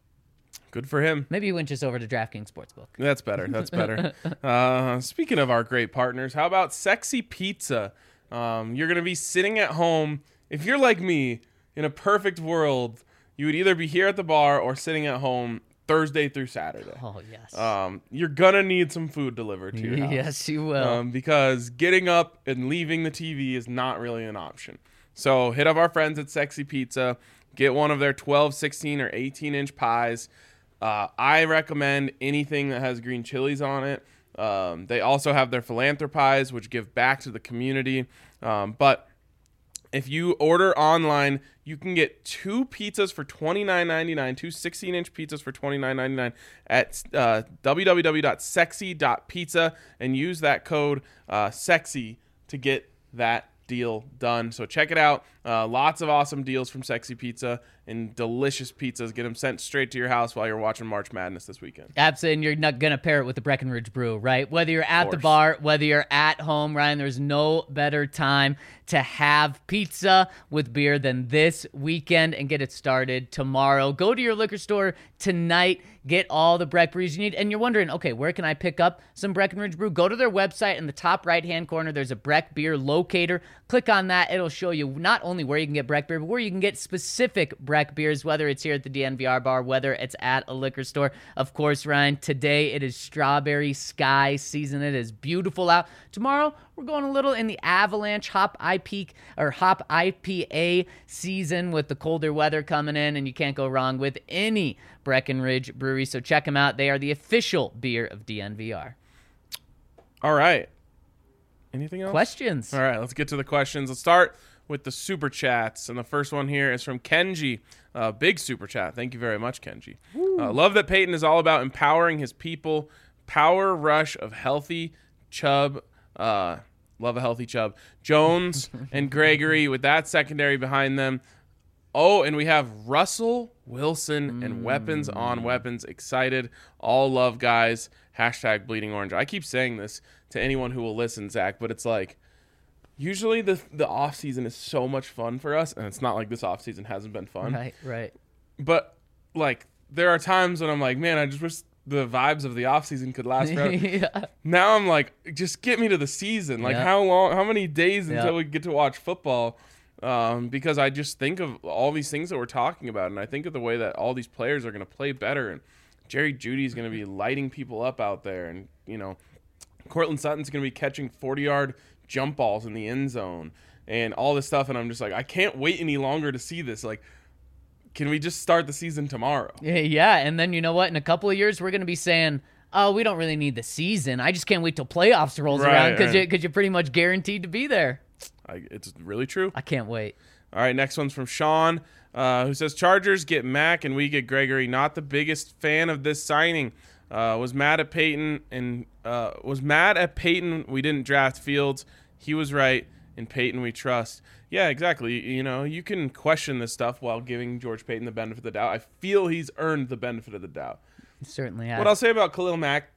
Good for him. Maybe he went just over to DraftKings Sportsbook. That's better. That's better. uh, speaking of our great partners, how about Sexy Pizza? Um, you're going to be sitting at home. If you're like me, in a perfect world, you would either be here at the bar or sitting at home Thursday through Saturday. Oh, yes. Um, you're going to need some food delivered to your house. Yes, you will. Um, because getting up and leaving the T V is not really an option. So hit up our friends at Sexy Pizza. Get one of their twelve, sixteen, or eighteen-inch pies. Uh, I recommend anything that has green chilies on it. Um, they also have their philanthropies, which give back to the community. Um, but if you order online, you can get two pizzas for twenty-nine ninety-nine, two sixteen-inch pizzas for twenty-nine ninety-nine at uh, w w w dot sexy dot pizza and use that code uh, SEXY to get that deal done. So check it out. Uh, lots of awesome deals from Sexy Pizza and delicious pizzas. Get them sent straight to your house while you're watching March Madness this weekend. Absolutely, and you're not going to pair it with the Breckenridge Brew, right? Whether you're at the bar, whether you're at home, Ryan, there's no better time to have pizza with beer than this weekend and get it started tomorrow. Go to your liquor store tonight, get all the Breck brews you need, and you're wondering, okay, where can I pick up some Breckenridge Brew? Go to their website. In the top right-hand corner, there's a Breck beer locator. Click on that. It'll show you not only where you can get Breck beer, but where you can get specific Breck beers, whether it's here at the D N V R bar, whether it's at a liquor store. Of course, Ryan, today it is strawberry sky season. It is beautiful out. Tomorrow, we're going a little in the Avalanche Hop I P or Hop I P A season with the colder weather coming in, and you can't go wrong with any Breckenridge Brewery. So check them out. They are the official beer of D N V R. All right. Anything else? Questions? All right, let's get to the questions. Let's start with the super chats. And the first one here is from Kenji. Uh, big super chat. Thank you very much, Kenji. Uh, love that Peyton is all about empowering his people. Power rush of healthy Chubb. Uh, love a healthy Chubb. Jones and Gregory with that secondary behind them. Oh, and we have Russell Wilson and weapons on weapons. Excited. All love, guys. Hashtag bleeding orange. I keep saying this to anyone who will listen, Zach, but it's like usually the the offseason is so much fun for us, and it's not like this offseason hasn't been fun. Right, right. But, like, there are times when I'm like, man, I just wish the vibes of the offseason could last forever. Yeah. Now I'm like, just get me to the season. Like, Yeah. how long, how many days until Yeah. we get to watch football? Um, because I just think of all these things that we're talking about, and I think of the way that all these players are going to play better, and Jerry Jeudy's going to be lighting people up out there, and, you know, Cortland Sutton's going to be catching forty-yard jump balls in the end zone and all this stuff, and I'm just like, I can't wait any longer to see this. Like, can we just start the season tomorrow? Yeah, yeah, and then you know what? In a couple of years, we're going to be saying, oh, we don't really need the season. I just can't wait till playoffs rolls Right, around because right. you, you're pretty much guaranteed to be there. I, it's really true. I can't wait. All right, next one's from Sean, uh, who says, Chargers get Mac and we get Gregory. Not the biggest fan of this signing. Uh, was mad at Peyton and uh, was mad at Peyton. We didn't draft Fields. He was right. In Peyton we trust. Yeah, exactly. You know, you can question this stuff while giving George Payton the benefit of the doubt. I feel he's earned the benefit of the doubt. He certainly has. What I'll say about Khalil Mack,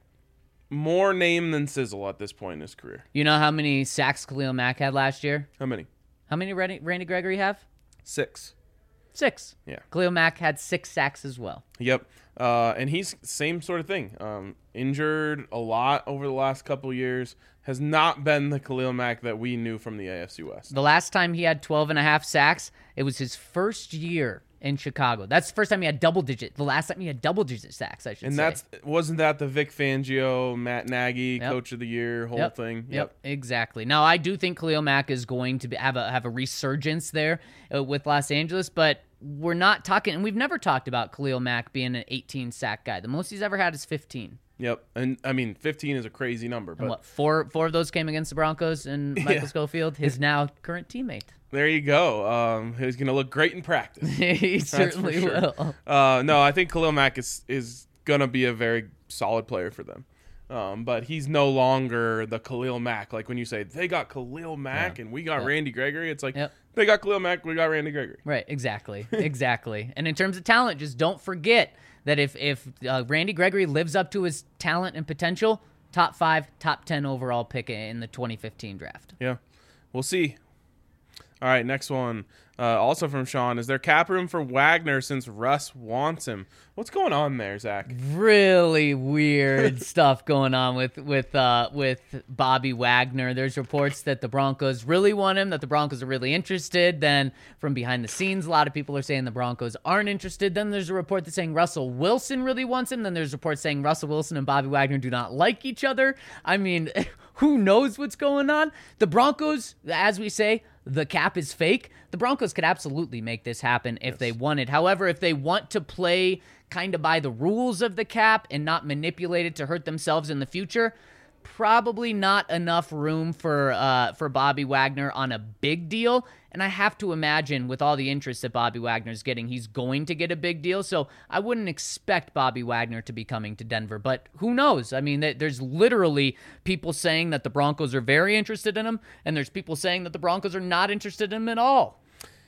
more name than sizzle at this point in his career. You know how many sacks Khalil Mack had last year? How many? How many Randy, Randy Gregory have? Six. Six. Yeah. Khalil Mack had six sacks as well. Yep. Uh, and he's same sort of thing. Um, injured a lot over the last couple of years. Has not been the Khalil Mack that we knew from the A F C West. The last time he had twelve and a half sacks, it was his first year in Chicago. That's the first time he had double digit. The last time he had double digit sacks, I should and say. that's wasn't that the Vic Fangio, Matt Nagy, Yep. Coach of the Year whole Yep. thing? Yep. exactly. Now, I do think Khalil Mack is going to be, have a have a resurgence there uh, with Los Angeles, but we're not talking, and we've never talked about Khalil Mack being an eighteen sack guy. The most he's ever had is fifteen. Yep. And I mean, fifteen is a crazy number, but And what, four four of those came against the Broncos and Michael Yeah. Schofield, his now current teammate. there you go. Um, he's going to look great in practice. He That's for certainly sure. will. Uh, no, I think Khalil Mack is, is going to be a very solid player for them. Um, but he's no longer the Khalil Mack. Like when you say they got Khalil Mack Yeah. and we got Yeah. Randy Gregory, it's like Yep. they got Khalil Mack, we got Randy Gregory. Right, exactly, exactly. And in terms of talent, just don't forget that if if uh, Randy Gregory lives up to his talent and potential, top five, top ten overall pick in the twenty fifteen draft. Yeah, we'll see. All right, next one. Uh, also from Sean, is there cap room for Wagner since Russ wants him? What's going on there, Zach? Really weird stuff going on with with uh, with Bobby Wagner. There's reports that the Broncos really want him, that the Broncos are really interested. Then from behind the scenes, a lot of people are saying the Broncos aren't interested. Then there's a report that's saying Russell Wilson really wants him. Then there's reports saying Russell Wilson and Bobby Wagner do not like each other. I mean, who knows what's going on? The Broncos, as we say, the cap is fake. The Broncos could absolutely make this happen if yes. they wanted. However, if they want to play kind of by the rules of the cap and not manipulate it to hurt themselves in the future, probably not enough room for uh, for Bobby Wagner on a big deal. And I have to imagine with all the interest that Bobby Wagner's getting, he's going to get a big deal. So I wouldn't expect Bobby Wagner to be coming to Denver. But who knows? I mean, there's literally people saying that the Broncos are very interested in him, and there's people saying that the Broncos are not interested in him at all.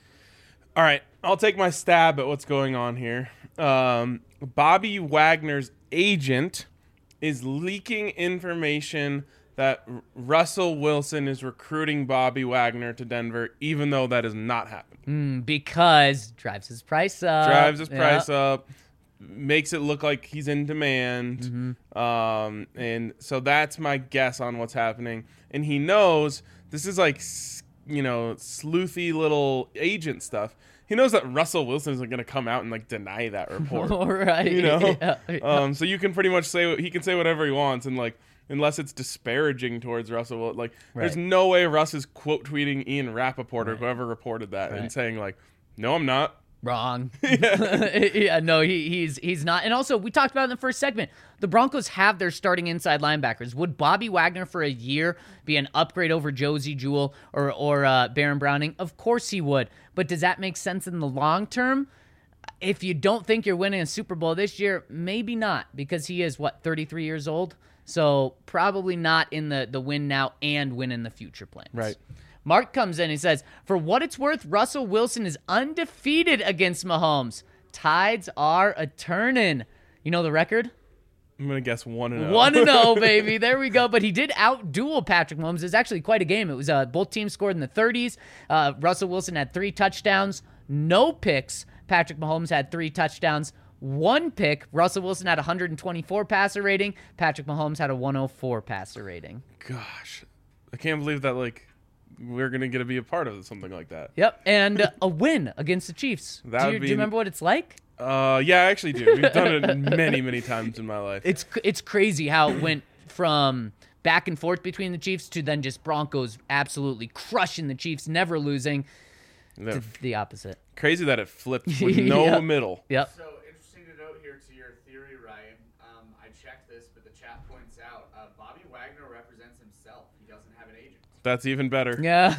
All right, I'll take my stab at what's going on here. Um, Bobby Wagner's agent is leaking information that R- Russell Wilson is recruiting Bobby Wagner to Denver, even though that has not happened. Mm, because drives his price up. Drives his yeah. price up, makes it look like he's in demand. Mm-hmm. Um, and so that's my guess on what's happening. And he knows this is like, you know, sleuthy little agent stuff. He knows that Russell Wilson isn't going to come out and like deny that report. Right. You know? Yeah, yeah. Um, so you can pretty much say, he can say whatever he wants, and like, unless it's disparaging towards Russell, like right. there's no way Russ is quote tweeting Ian Rappaport or right. whoever reported that right. and saying like, no, I'm not. Wrong. Yeah. yeah, no, he, he's he's not. And also, we talked about in the first segment, the Broncos have their starting inside linebackers. Would Bobby Wagner for a year be an upgrade over Josie Jewell or, or uh, Baron Browning? Of course he would. But does that make sense in the long term? If you don't think you're winning a Super Bowl this year, maybe not, because he is, what, thirty-three years old? So probably not in the, the win now and win in the future plans. Right. Mark comes in and says, for what it's worth, Russell Wilson is undefeated against Mahomes. Tides are a-turnin'. You know the record? I'm going to guess one and oh. one and oh, baby. There we go. But he did out-duel Patrick Mahomes. It was actually quite a game. It was uh, both teams scored in the thirties. Uh, Russell Wilson had three touchdowns, no picks. Patrick Mahomes had three touchdowns, one pick. Russell Wilson had one hundred twenty-four passer rating. Patrick Mahomes had a one oh four passer rating. Gosh. I can't believe that, like, we're going to get to be a part of something like that. Yep, and uh, a win against the Chiefs. That do, would you, be... do you remember what it's like? Uh, yeah, I actually do. We've done it many, many times in my life. It's it's crazy how it went from back and forth between the Chiefs to then just Broncos absolutely crushing the Chiefs, never losing, to the opposite. Crazy that it flipped with no yep. middle. Yep. So interesting to note here to your theory, Ryan. Um, I checked this, but the chat points out uh, Bobby Wagner represents himself. He doesn't have an agent. That's even better. Yeah.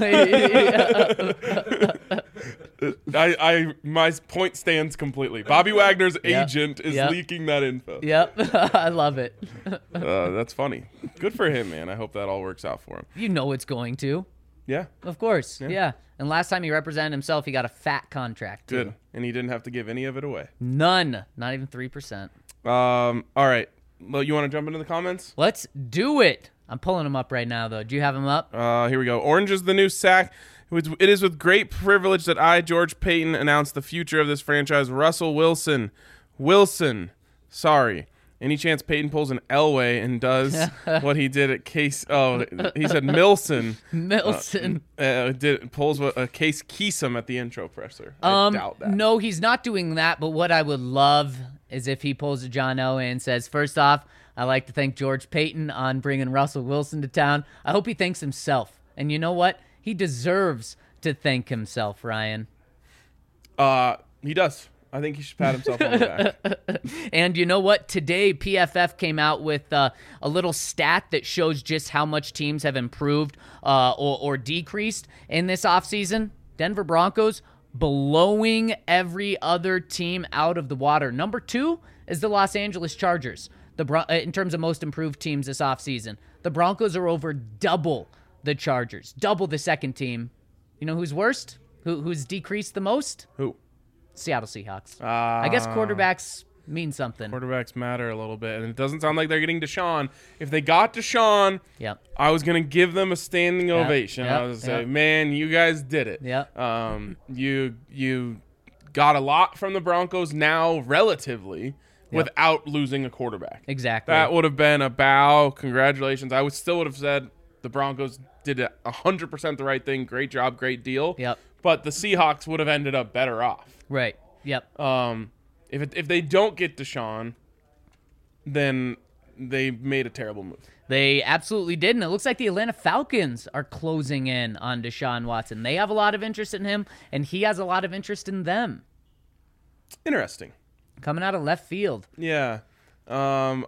I, I, my point stands completely. Bobby Wagner's yep. agent is yep. leaking that info. Yep. I love it. uh, that's funny. Good for him, man. I hope that all works out for him. You know it's going to. Yeah. Of course. Yeah. Yeah. And last time he represented himself, he got a fat contract. Too. Good. And he didn't have to give any of it away. None. Not even three percent. Um. All right. Well, you want to jump into the comments? Let's do it. I'm pulling them up right now, though. Do you have them up? Uh, here we go. Orange is the new sack. It is with great privilege that I, George Payton, announce the future of this franchise. Russell Wilson. Wilson. Sorry. Any chance Peyton pulls an Elway and does what he did at Case? Oh, he said Milson. Milson uh, uh, did pulls a Case Keesum at the intro presser. I um, doubt that. No, he's not doing that. But what I would love is if he pulls a John Elway and says, first off, I'd like to thank George Payton on bringing Russell Wilson to town. I hope he thanks himself. And you know what? He deserves to thank himself, Ryan. Uh, he does. I think he should pat himself on the back. And you know what? Today, P F F came out with uh, a little stat that shows just how much teams have improved uh, or, or decreased in this offseason. Denver Broncos blowing every other team out of the water. Number two is the Los Angeles Chargers, the Bron- in terms of most improved teams this offseason. The Broncos are over double the Chargers, double the second team. You know who's worst? Who, who's decreased the most? Who? Seattle Seahawks. Uh, I guess quarterbacks mean something. Quarterbacks matter a little bit, and it doesn't sound like they're getting Deshaun. If they got Deshaun, Yep. I was gonna give them a standing Yep, ovation. yep, I was gonna yep. say, man, you guys did it. Yep. Um, you you got a lot from the Broncos now, relatively, without losing a quarterback. Exactly. That would have been a bow. Congratulations. I would still would have said the Broncos did a hundred percent the right thing. Great job, great deal. Yep. But the Seahawks would have ended up better off. Right. Yep. Um, if it, if they don't get Deshaun, then they made a terrible move. They absolutely did, and it looks like the Atlanta Falcons are closing in on Deshaun Watson. They have a lot of interest in him, and he has a lot of interest in them. Interesting. Coming out of left field. Yeah. Um,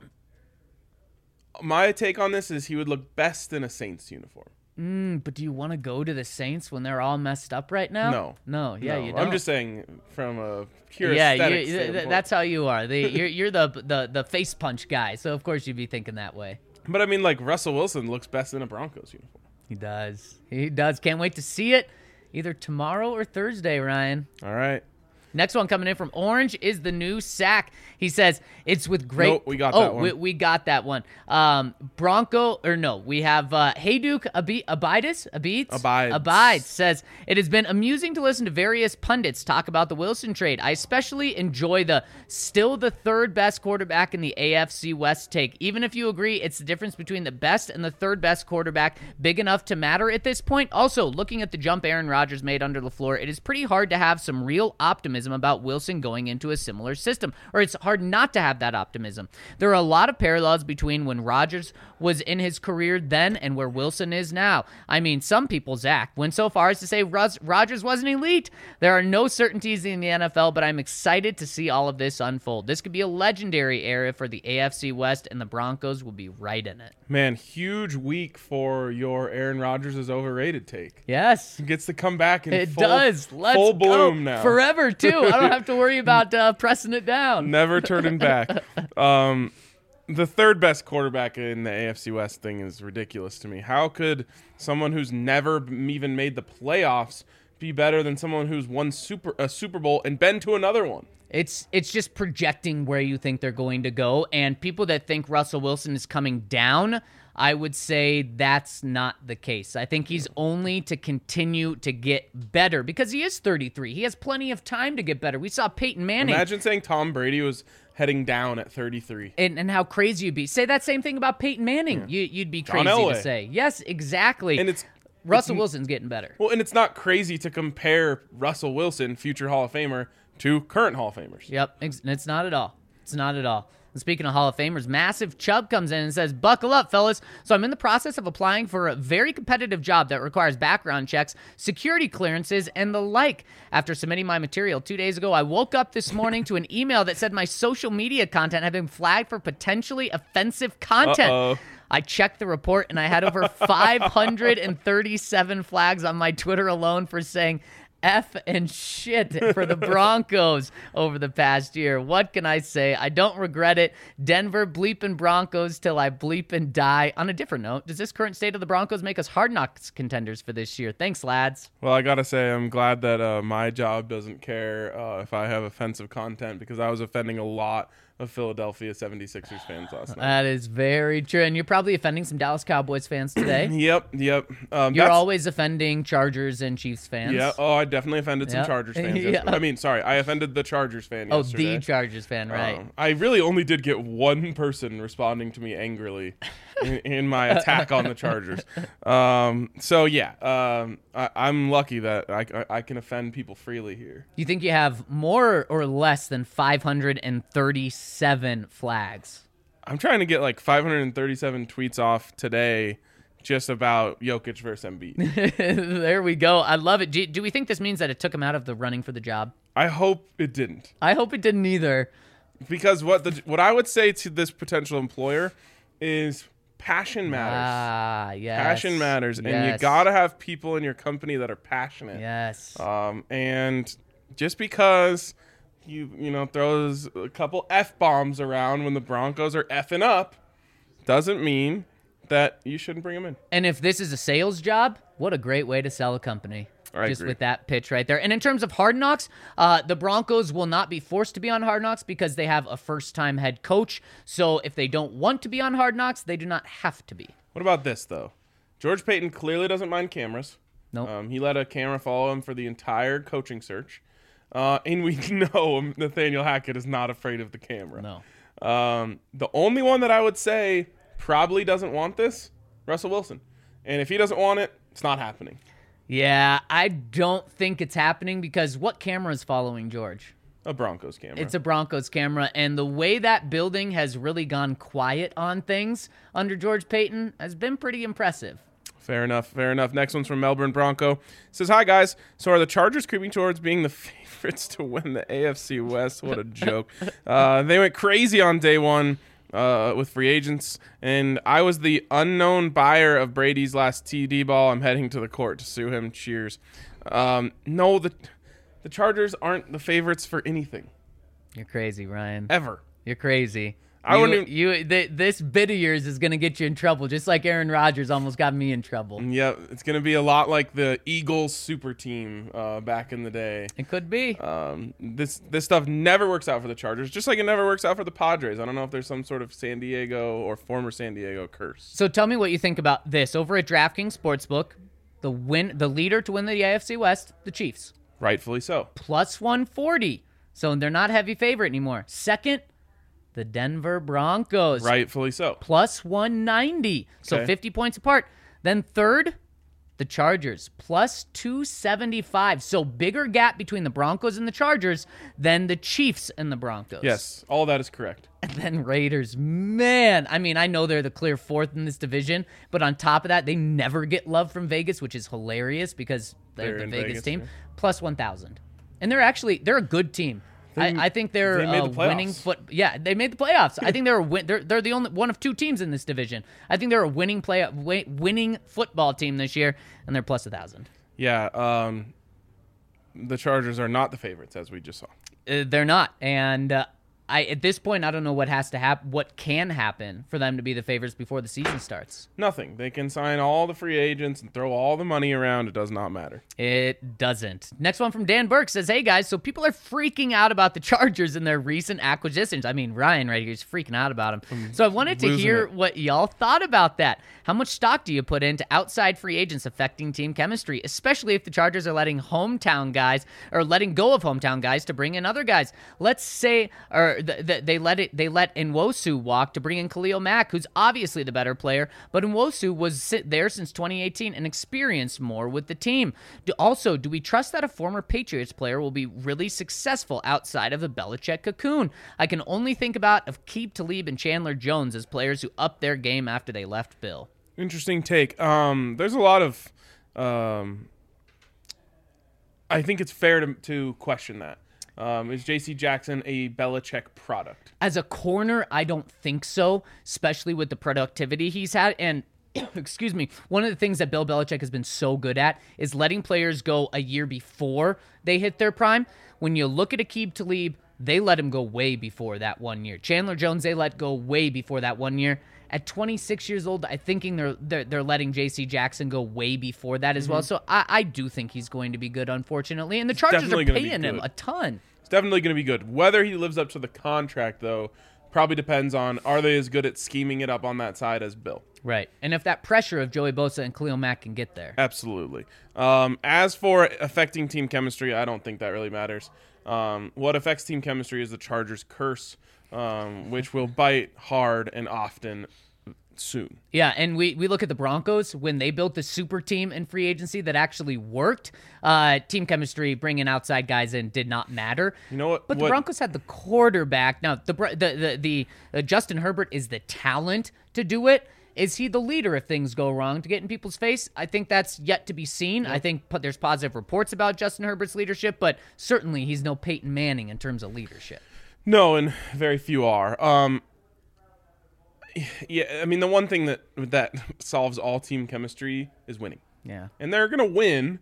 my take on this is he would look best in a Saints uniform. Mm, but do you want to go to the Saints when they're all messed up right now? No. No, yeah, No, you don't. I'm just saying from a pure yeah, aesthetic you, th- standpoint. that's how you are. The, you're you're the, the the face punch guy, so of course you'd be thinking that way. But I mean, like, Russell Wilson looks best in a Broncos uniform. He does. He does. Can't wait to see it either tomorrow or Thursday, Ryan. All right. Next one coming in from Orange is the new sack. He says, it's with great... Nope, we got oh, that one. We, we got that one. Um, Bronco, or no, we have uh, Hayduk Abi- Abides? Abides? Abides. Abides says, it has been amusing to listen to various pundits talk about the Wilson trade. I especially enjoy the still the third best quarterback in the A F C West take. Even if you agree it's the difference between the best and the third best quarterback big enough to matter at this point. Also, looking at the jump Aaron Rodgers made under LaFleur, it is pretty hard to have some real optimism about Wilson going into a similar system, or it's hard not to have that optimism. There are a lot of parallels between when Rodgers was in his career then and where Wilson is now. I mean, some people, Zach, went so far as to say Ros- Rodgers wasn't elite. There are no certainties in the N F L, but I'm excited to see all of this unfold. This could be a legendary era for the A F C West, and the Broncos will be right in it. Man, huge week for your Aaron Rodgers is overrated take. Yes. He gets to come back in It full, does. Let's full go. bloom now. Forever, too. I don't have to worry about uh, pressing it down. Never turning back. Um, the third best quarterback in the A F C West thing is ridiculous to me. How could someone who's never m- even made the playoffs be better than someone who's won super a Super Bowl and been to another one? It's it's just projecting where you think they're going to go, and people that think Russell Wilson is coming down, I would say that's not the case. I think he's only to continue to get better because he is thirty-three. He has plenty of time to get better. We saw Peyton Manning. Imagine saying Tom Brady was heading down at thirty-three. And, and how crazy you'd be. Say that same thing about Peyton Manning. You, you'd be John crazy Elway. to say. Yes, exactly. And it's Russell it's, Wilson's getting better. Well, and it's not crazy to compare Russell Wilson, future Hall of Famer, to current Hall of Famers. Yep, ex- it's not at all. It's not at all. And speaking of Hall of Famers, Massive Chubb comes in and says, buckle up, fellas. So I'm in the process of applying for a very competitive job that requires background checks, security clearances, and the like. After submitting my material two days ago, I woke up this morning to an email that said my social media content had been flagged for potentially offensive content. Uh-oh. I checked the report, and I had over five hundred thirty-seven flags on my Twitter alone for saying F and shit for the Broncos over the past year. What can I say? I don't regret it. Denver bleeping Broncos till I bleep and die. On a different note, does this current state of the Broncos make us hard knocks contenders for this year? Thanks, lads. Well, I gotta say, I'm glad that uh, my job doesn't care uh, if I have offensive content, because I was offending a lot of Philadelphia seventy-sixers fans last night. That is very true. And you're probably offending some Dallas Cowboys fans today. Yep, yep. Um, You're that's- always offending Chargers and Chiefs fans. Yeah. Oh, I definitely offended some Yeah. Chargers fans. Yeah. yesterday. I mean, sorry, I offended the Chargers fan Oh, yesterday. the Chargers fan, right. Um, I really only did get one person responding to me angrily in, in my attack on the Chargers. Um, so yeah, um, I, I'm lucky that I, I, I can offend people freely here. You think you have more or less than five hundred thirty-seven flags? I'm trying to get like five hundred thirty-seven tweets off today just about Jokic versus Embiid. There we go. I love it. Do, do we think this means that it took him out of the running for the job? I hope it didn't. I hope it didn't either. Because what the what I would say to this potential employer is passion matters. Ah, yes. Passion matters, and you Yes. gotta have people in your company that are passionate. Yes. Um, and just because you you know throws a couple f bombs around when the Broncos are effing up, doesn't mean that you shouldn't bring them in. And if this is a sales job, what a great way to sell a company. I just agree. with that pitch right there. And in terms of Hard Knocks, uh, the Broncos will not be forced to be on Hard Knocks because they have a first-time head coach. So if they don't want to be on Hard Knocks, they do not have to be. What about this, though? George Payton clearly doesn't mind cameras. Nope. Um, he let a camera follow him for the entire coaching search. Uh, and we know Nathaniel Hackett is not afraid of the camera. No. Um, the only one that I would say probably doesn't want this, Russell Wilson. And if he doesn't want it, it's not happening. Yeah, I don't think it's happening because what camera is following George? A Broncos camera. It's a Broncos camera, and the way that building has really gone quiet on things under George Payton has been pretty impressive. Fair enough, fair enough. Next one's from Melbourne Bronco. It says, hi, guys. So are the Chargers creeping towards being the favorites to win the A F C West? What a joke. Uh, they went crazy on day one uh, with free agents, and I was the unknown buyer of Brady's last T D ball. I'm heading to the court to sue him. Cheers. Um, no, the, the Chargers aren't the favorites for anything. You're crazy, Ryan. Ever. You're crazy. I you, wouldn't even- you th- this bit of yours is going to get you in trouble, just like Aaron Rodgers almost got me in trouble. Yeah, it's going to be a lot like the Eagles super team uh, back in the day. It could be. Um, this this stuff never works out for the Chargers, just like it never works out for the Padres. I don't know if there's some sort of San Diego or former San Diego curse. So tell me what you think about this. Over at DraftKings Sportsbook, the win, the leader to win the A F C West, the Chiefs, Rightfully so. plus one forty. So they're not heavy favorite anymore. Second, the Denver Broncos, Rightfully so. plus one ninety. So Okay. fifty points apart. Then third, the Chargers, plus two seventy-five. So bigger gap between the Broncos and the Chargers than the Chiefs and the Broncos. Yes, all that is correct. And then Raiders, man. I mean, I know they're the clear fourth in this division, but on top of that, they never get love from Vegas, which is hilarious because they're, They're the in Vegas, Vegas, team. yeah. Plus one thousand. And they're actually, they're a good team. They- I, I think they're they made uh, the playoffs. winning foot. Yeah, they made the playoffs. I think they're a win, they're they're the only one of two teams in this division. I think they're a winning play wi- winning football team this year, and they're plus a thousand. Yeah, um, the Chargers are not the favorites, as we just saw. Uh, they're not, and uh, I at this point I don't know what has to happen, what can happen for them to be the favorites before the season starts. Nothing. They can sign all the free agents and throw all the money around. It does not matter. It doesn't. Next one from Dan Burke says, hey guys, so people are freaking out about the Chargers and their recent acquisitions. I mean, Ryan right here is freaking out about them. So I wanted to losing hear it. what y'all thought about that. How much stock do you put into outside free agents affecting team chemistry, especially if the Chargers are letting hometown guys or letting go of hometown guys to bring in other guys? Let's say, or th- th- they let it, they let Nwosu walk to bring in Khalil Mack, who's obviously the better player, but Nwosu was sit there since twenty eighteen and experienced more with the team. Do, also, do we trust that a former Patriots player will be really successful outside of the Belichick cocoon? I can only think about Aqib Talib and Chandler Jones as players who upped their game after they left Bill. Interesting take. Um, there's a lot of. Um, I think it's fair to, to question that. Um, is J C Jackson a Belichick product? As a corner, I don't think so, especially with the productivity he's had. And excuse me, one of the things that Bill Belichick has been so good at is letting players go a year before they hit their prime. When you look at Aqib Talib, they let him go way before that one year. Chandler Jones, they let go way before that one year. At twenty-six years old, I think they're they're, they're letting J C Jackson go way before that as Mm-hmm. well. So I, I do think he's going to be good, unfortunately. And the Chargers are definitely gonna be paying him good. a ton. It's definitely going to be good. Whether he lives up to the contract, though, probably depends on are they as good at scheming it up on that side as Bill. Right. And if that pressure of Joey Bosa and Khalil Mack can get there. Absolutely. Um, as for affecting team chemistry, I don't think that really matters. Um, what affects team chemistry is the Chargers curse, um, which will bite hard and often soon. Yeah, and we, we look at the Broncos when they built the super team in free agency that actually worked. Uh, team chemistry, bringing outside guys in, did not matter. You know what? But the what- Broncos had the quarterback. Now, the Bro- the the, the uh, Justin Herbert is the talent to do it. Is he the leader if things go wrong to get in people's face? I think that's yet to be seen. I think po- there's positive reports about Justin Herbert's leadership, but certainly he's no Peyton Manning in terms of leadership. No, and very few are. Um, yeah, I mean, the one thing that that solves all team chemistry is winning. Yeah. And they're going to win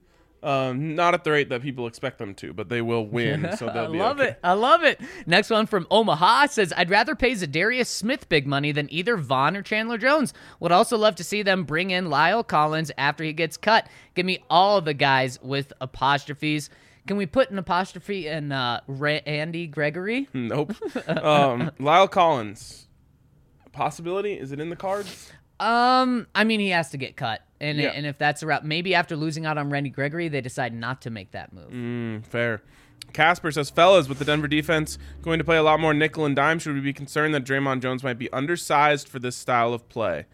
Um, not at the rate that people expect them to, but they will win, so I they'll be love okay. it. I love it. Next one from Omaha says, I'd rather pay Zadarius Smith big money than either Vaughn or Chandler Jones. Would also love to see them bring in Lyle Collins after he gets cut. Give me all the guys with apostrophes. Can we put an apostrophe in uh, Ra- Andy Gregory? Nope. um, Lyle Collins, possibility? Is it in the cards? Um, I mean, he has to get cut. And, Yeah. and if that's a route, maybe after losing out on Randy Gregory, they decide not to make that move. Mm, fair. Casper says, fellas, with the Denver defense going to play a lot more nickel and dime, should we be concerned that Draymond Jones might be undersized for this style of play?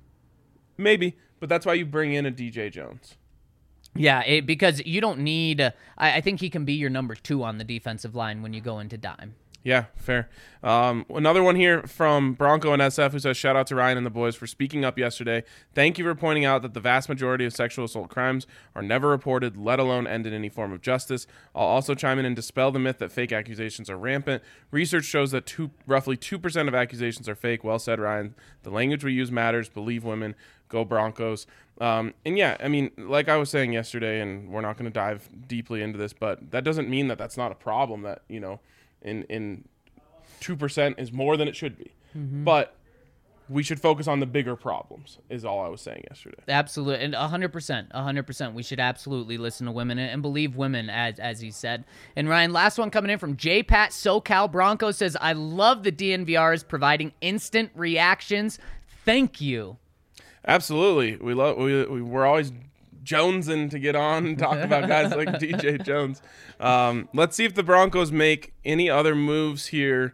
Maybe, but that's why you bring in a D J Jones. Yeah, it, because you don't need uh, I, I think he can be your number two on the defensive line when you go into dime. Yeah, fair. Um, another one here from Bronco and S F who says, shout out to Ryan and the boys for speaking up yesterday. Thank you for pointing out that the vast majority of sexual assault crimes are never reported, let alone end in any form of justice. I'll also chime in and dispel the myth that fake accusations are rampant. Research shows that two, roughly two percent of accusations are fake. Well said, Ryan. The language we use matters. Believe women. Go Broncos. Um, and yeah, I mean, like I was saying yesterday, and we're not going to dive deeply into this, but that doesn't mean that that's not a problem that, you know, in in two percent is more than it should be. Mm-hmm. But we should focus on the bigger problems is all I was saying yesterday. Absolutely. And one hundred percent. one hundred percent. We should absolutely listen to women and believe women, as as he said. And Ryan, last one coming in from J Pat SoCal Bronco says, I love the D N V Rs providing instant reactions. Thank you. Absolutely. We love we, we we're always jonesing to get on and talk about guys like D J Jones. Um, let's see if the Broncos make any other moves here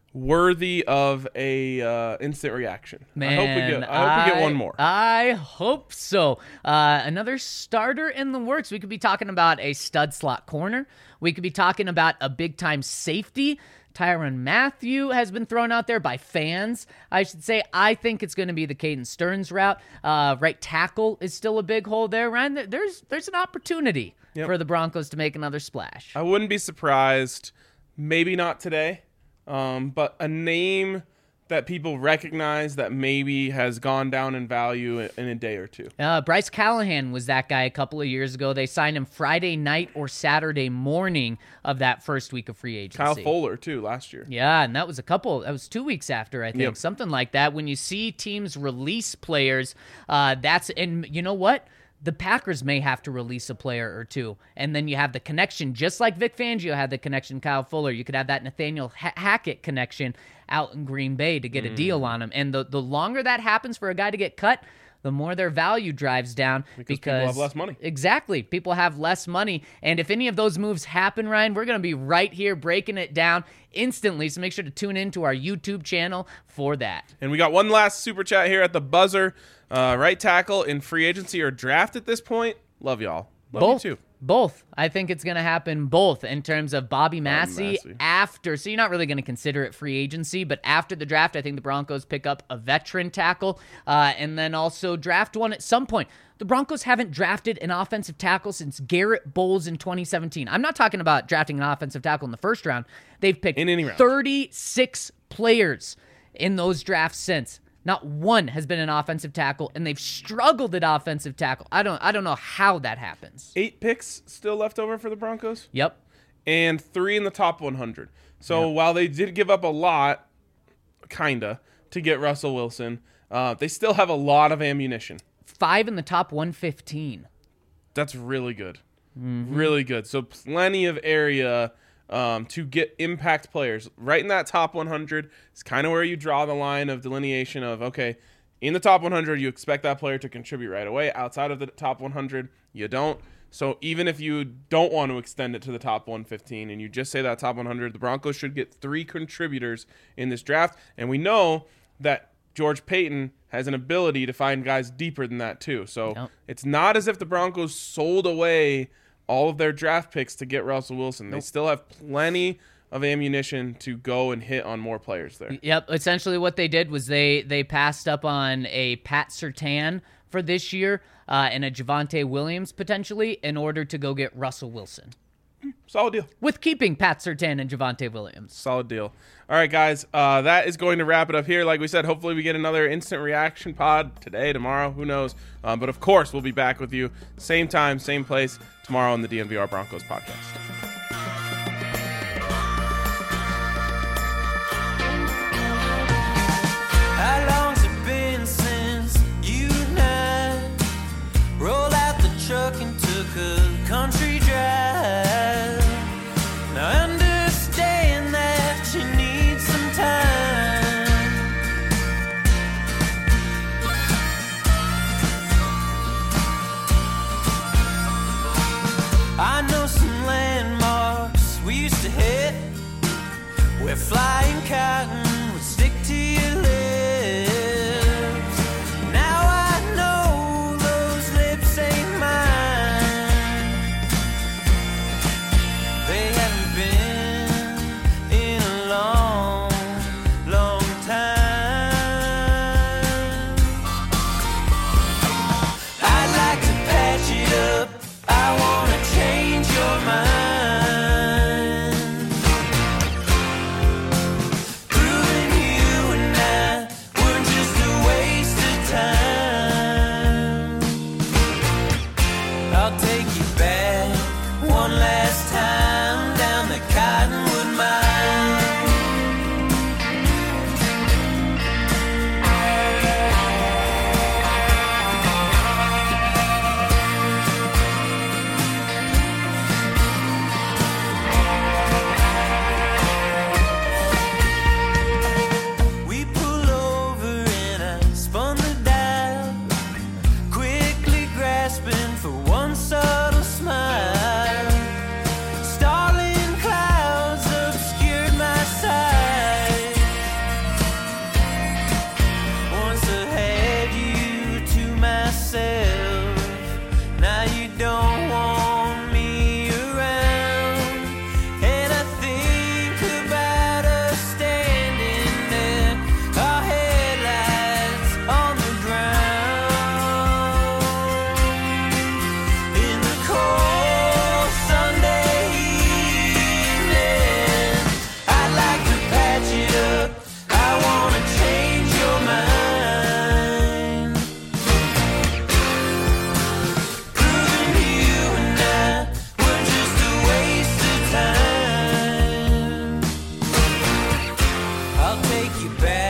worthy of a uh, instant reaction. Man, I hope we get I hope we get one more. I hope so. Uh, another starter in the works. We could be talking about a stud slot corner. We could be talking about a big time safety. Tyrann Mathieu has been thrown out there by fans, I should say. I think it's going to be the Caden Stearns route. Uh, right tackle is still a big hole there, Ryan. There's there's an opportunity Yep. for the Broncos to make another splash. I wouldn't be surprised, maybe not today, um, but a name that people recognize that maybe has gone down in value in, in a day or two. Uh, Bryce Callahan was that guy a couple of years ago. They signed him Friday night or Saturday morning of that first week of free agency. Kyle Fuller, too, last year. Yeah, and that was a couple, that was two weeks after, I think, Yep. something like that. When you see teams release players, uh, that's, and you know what? The Packers may have to release a player or two, and then you have the connection, just like Vic Fangio had the connection, Kyle Fuller. You could have that Nathaniel ha- Hackett connection out in Green Bay to get a deal on him. And the, the longer that happens for a guy to get cut, the more their value drives down Because because, people have less money. Exactly. People have less money. And if any of those moves happen, Ryan, we're going to be right here breaking it down instantly. So make sure to tune in to our YouTube channel for that. And we got one last super chat here at the buzzer. Uh, right tackle in free agency or draft at this point. Love y'all. Love Both. you too. Both. I think it's going to happen both in terms of Bobby Massey, Massey. after. So you're not really going to consider it free agency, but after the draft, I think the Broncos pick up a veteran tackle uh, and then also draft one at some point. The Broncos haven't drafted an offensive tackle since Garrett Bowles in twenty seventeen. I'm not talking about drafting an offensive tackle in the first round. They've picked In any round. thirty-six players in those drafts since. Not one has been an offensive tackle, and they've struggled at offensive tackle. I don't I don't know how that happens. Eight picks still left over for the Broncos. Yep. And three in the top one hundred. So while they did give up a lot, kinda, to get Russell Wilson, uh, they still have a lot of ammunition. Five in the top one fifteen. That's really good. Really good. So plenty of area um, to get impact players. Right in that top one hundred is kind of where you draw the line of delineation of, okay, in the top one hundred, you expect that player to contribute right away. Outside of the top one hundred, you don't. So even if you don't want to extend it to the top one fifteen and you just say that top one hundred, the Broncos should get three contributors in this draft. And we know that George Payton has an ability to find guys deeper than that too. So Yep. it's not as if the Broncos sold away all of their draft picks to get Russell Wilson. They still have plenty of ammunition to go and hit on more players there. Yep. Essentially, what they did was they they passed up on a Pat Surtain for this year uh, and a Javonte Williams potentially in order to go get Russell Wilson. Solid deal. with keeping Pat Surtain and Javonte Williams. Solid deal. All right, guys, uh, that is going to wrap it up here. Like we said, hopefully we get another instant reaction pod today, tomorrow, who knows. Um, but, of course, we'll be back with you same time, same place tomorrow on the D N V R Broncos podcast. How long's it been since you and I rolled out the truck and took a country drive? Now understand that you need some time. I know some landmarks we used to hit where flying cotton would stick to your lips. Now I know those lips ain't mine. They haven't been in a long, long time. I'd like to patch it up. I wanna change your mind. I'll take you back one last time down the Cottonwood Mine. We pull over and I spun the dial, quickly grasping for one subtle smile. Starling clouds obscured my sight. Once I had you to myself, now you don't want me around. And I think about us standing there, our headlights on the ground. In the cold Sunday evening, I'd like to patch it up. I wanna change your mind. Proving you and I were just a waste of time. I'll take you back